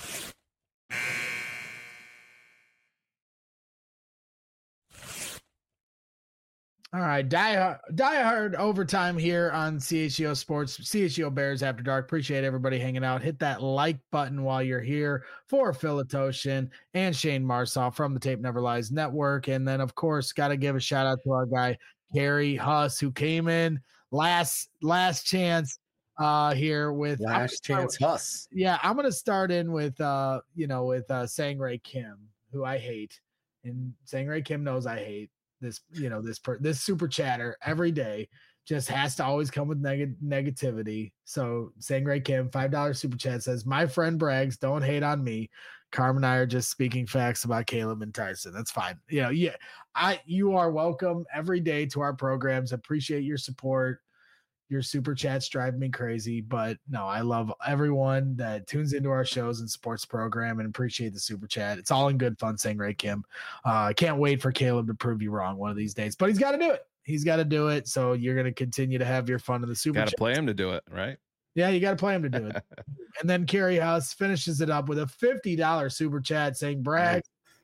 All right, die, die hard overtime here on C H E O Sports, C H E O Bears After Dark. Appreciate everybody hanging out. Hit that like button while you're here for Philitoshin and Shane Marsaw from the Tape Never Lies Network. And then, of course, got to give a shout out to our guy, Gary Huss, who came in last last chance uh here with I'm gonna Last start chance with- Huss. yeah, I'm gonna start in with uh, you know, with uh Sangray Kim, who I hate. And Sangray Kim knows I hate this, you know, this per this super chatter every day. just has to always come with neg- negativity. So Sangray Kim, five dollars super chat says, my friend brags, don't hate on me. Carm and I are just speaking facts about Caleb and Tyson. That's fine. You know, yeah, I you are welcome every day to our programs. Appreciate your support. Your super chats drive me crazy, but no, I love everyone that tunes into our shows and supports the program and appreciate the super chat. It's all in good fun, Sangray Kim. I uh, can't wait for Caleb to prove you wrong one of these days, but he's got to do it. He's got to do it. So you're going to continue to have your fun in the super chat. Got to play him to do it, right? Yeah, you got to play him to do it. And then Kerry Huss finishes it up with a fifty dollars super chat saying, brag,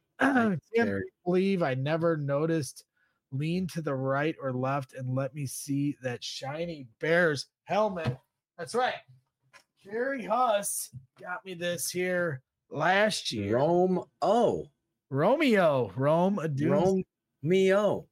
I can't believe I never noticed. Lean to the right or left and let me see that shiny Bears helmet. That's right. Kerry Huss got me this here last year. Rome O. Romeo. Rome Adun- Romeo.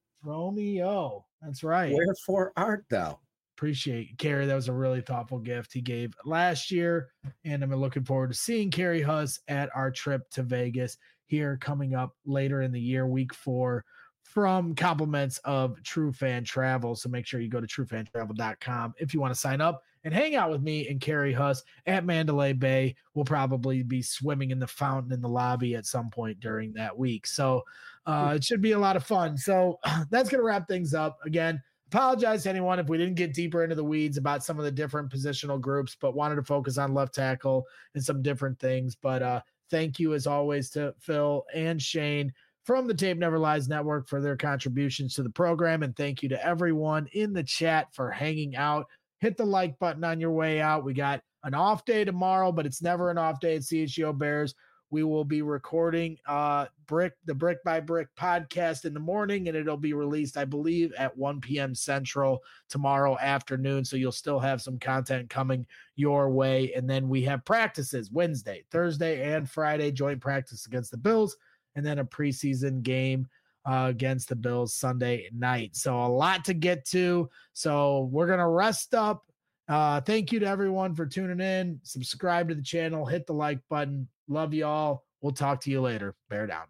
Romeo. That's right. Wherefore art thou? Appreciate Kerry. That was a really thoughtful gift he gave last year. And I'm looking forward to seeing Kerry Huss at our trip to Vegas here coming up later in the year, week four, from compliments of True Fan Travel. So make sure you go to true fan travel dot com if you want to sign up and hang out with me and Kerry Huss at Mandalay Bay. We'll probably be swimming in the fountain in the lobby at some point during that week. So uh, it should be a lot of fun. So that's going to wrap things up. Again, apologize to anyone if we didn't get deeper into the weeds about some of the different positional groups, but wanted to focus on left tackle and some different things. But uh, thank you as always to Phil and Shane from the Tape Never Lies Network for their contributions to the program. And thank you to everyone in the chat for hanging out. Hit the like button on your way out. We got an off day tomorrow, but it's never an off day at C H G O Bears. We will be recording uh, Brick, the Brick by Brick podcast in the morning, and it'll be released, I believe, at one p.m. Central tomorrow afternoon. So you'll still have some content coming your way. And then we have practices Wednesday, Thursday, and Friday, joint practice against the Bills, and then a preseason game uh, against the Bills Sunday night. So a lot to get to. So we're going to rest up. Uh, thank you to everyone for tuning in. Subscribe to the channel. Hit the like button. Love you all. We'll talk to you later. Bear down.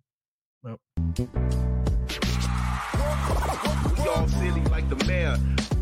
Well. We all silly like the mayor.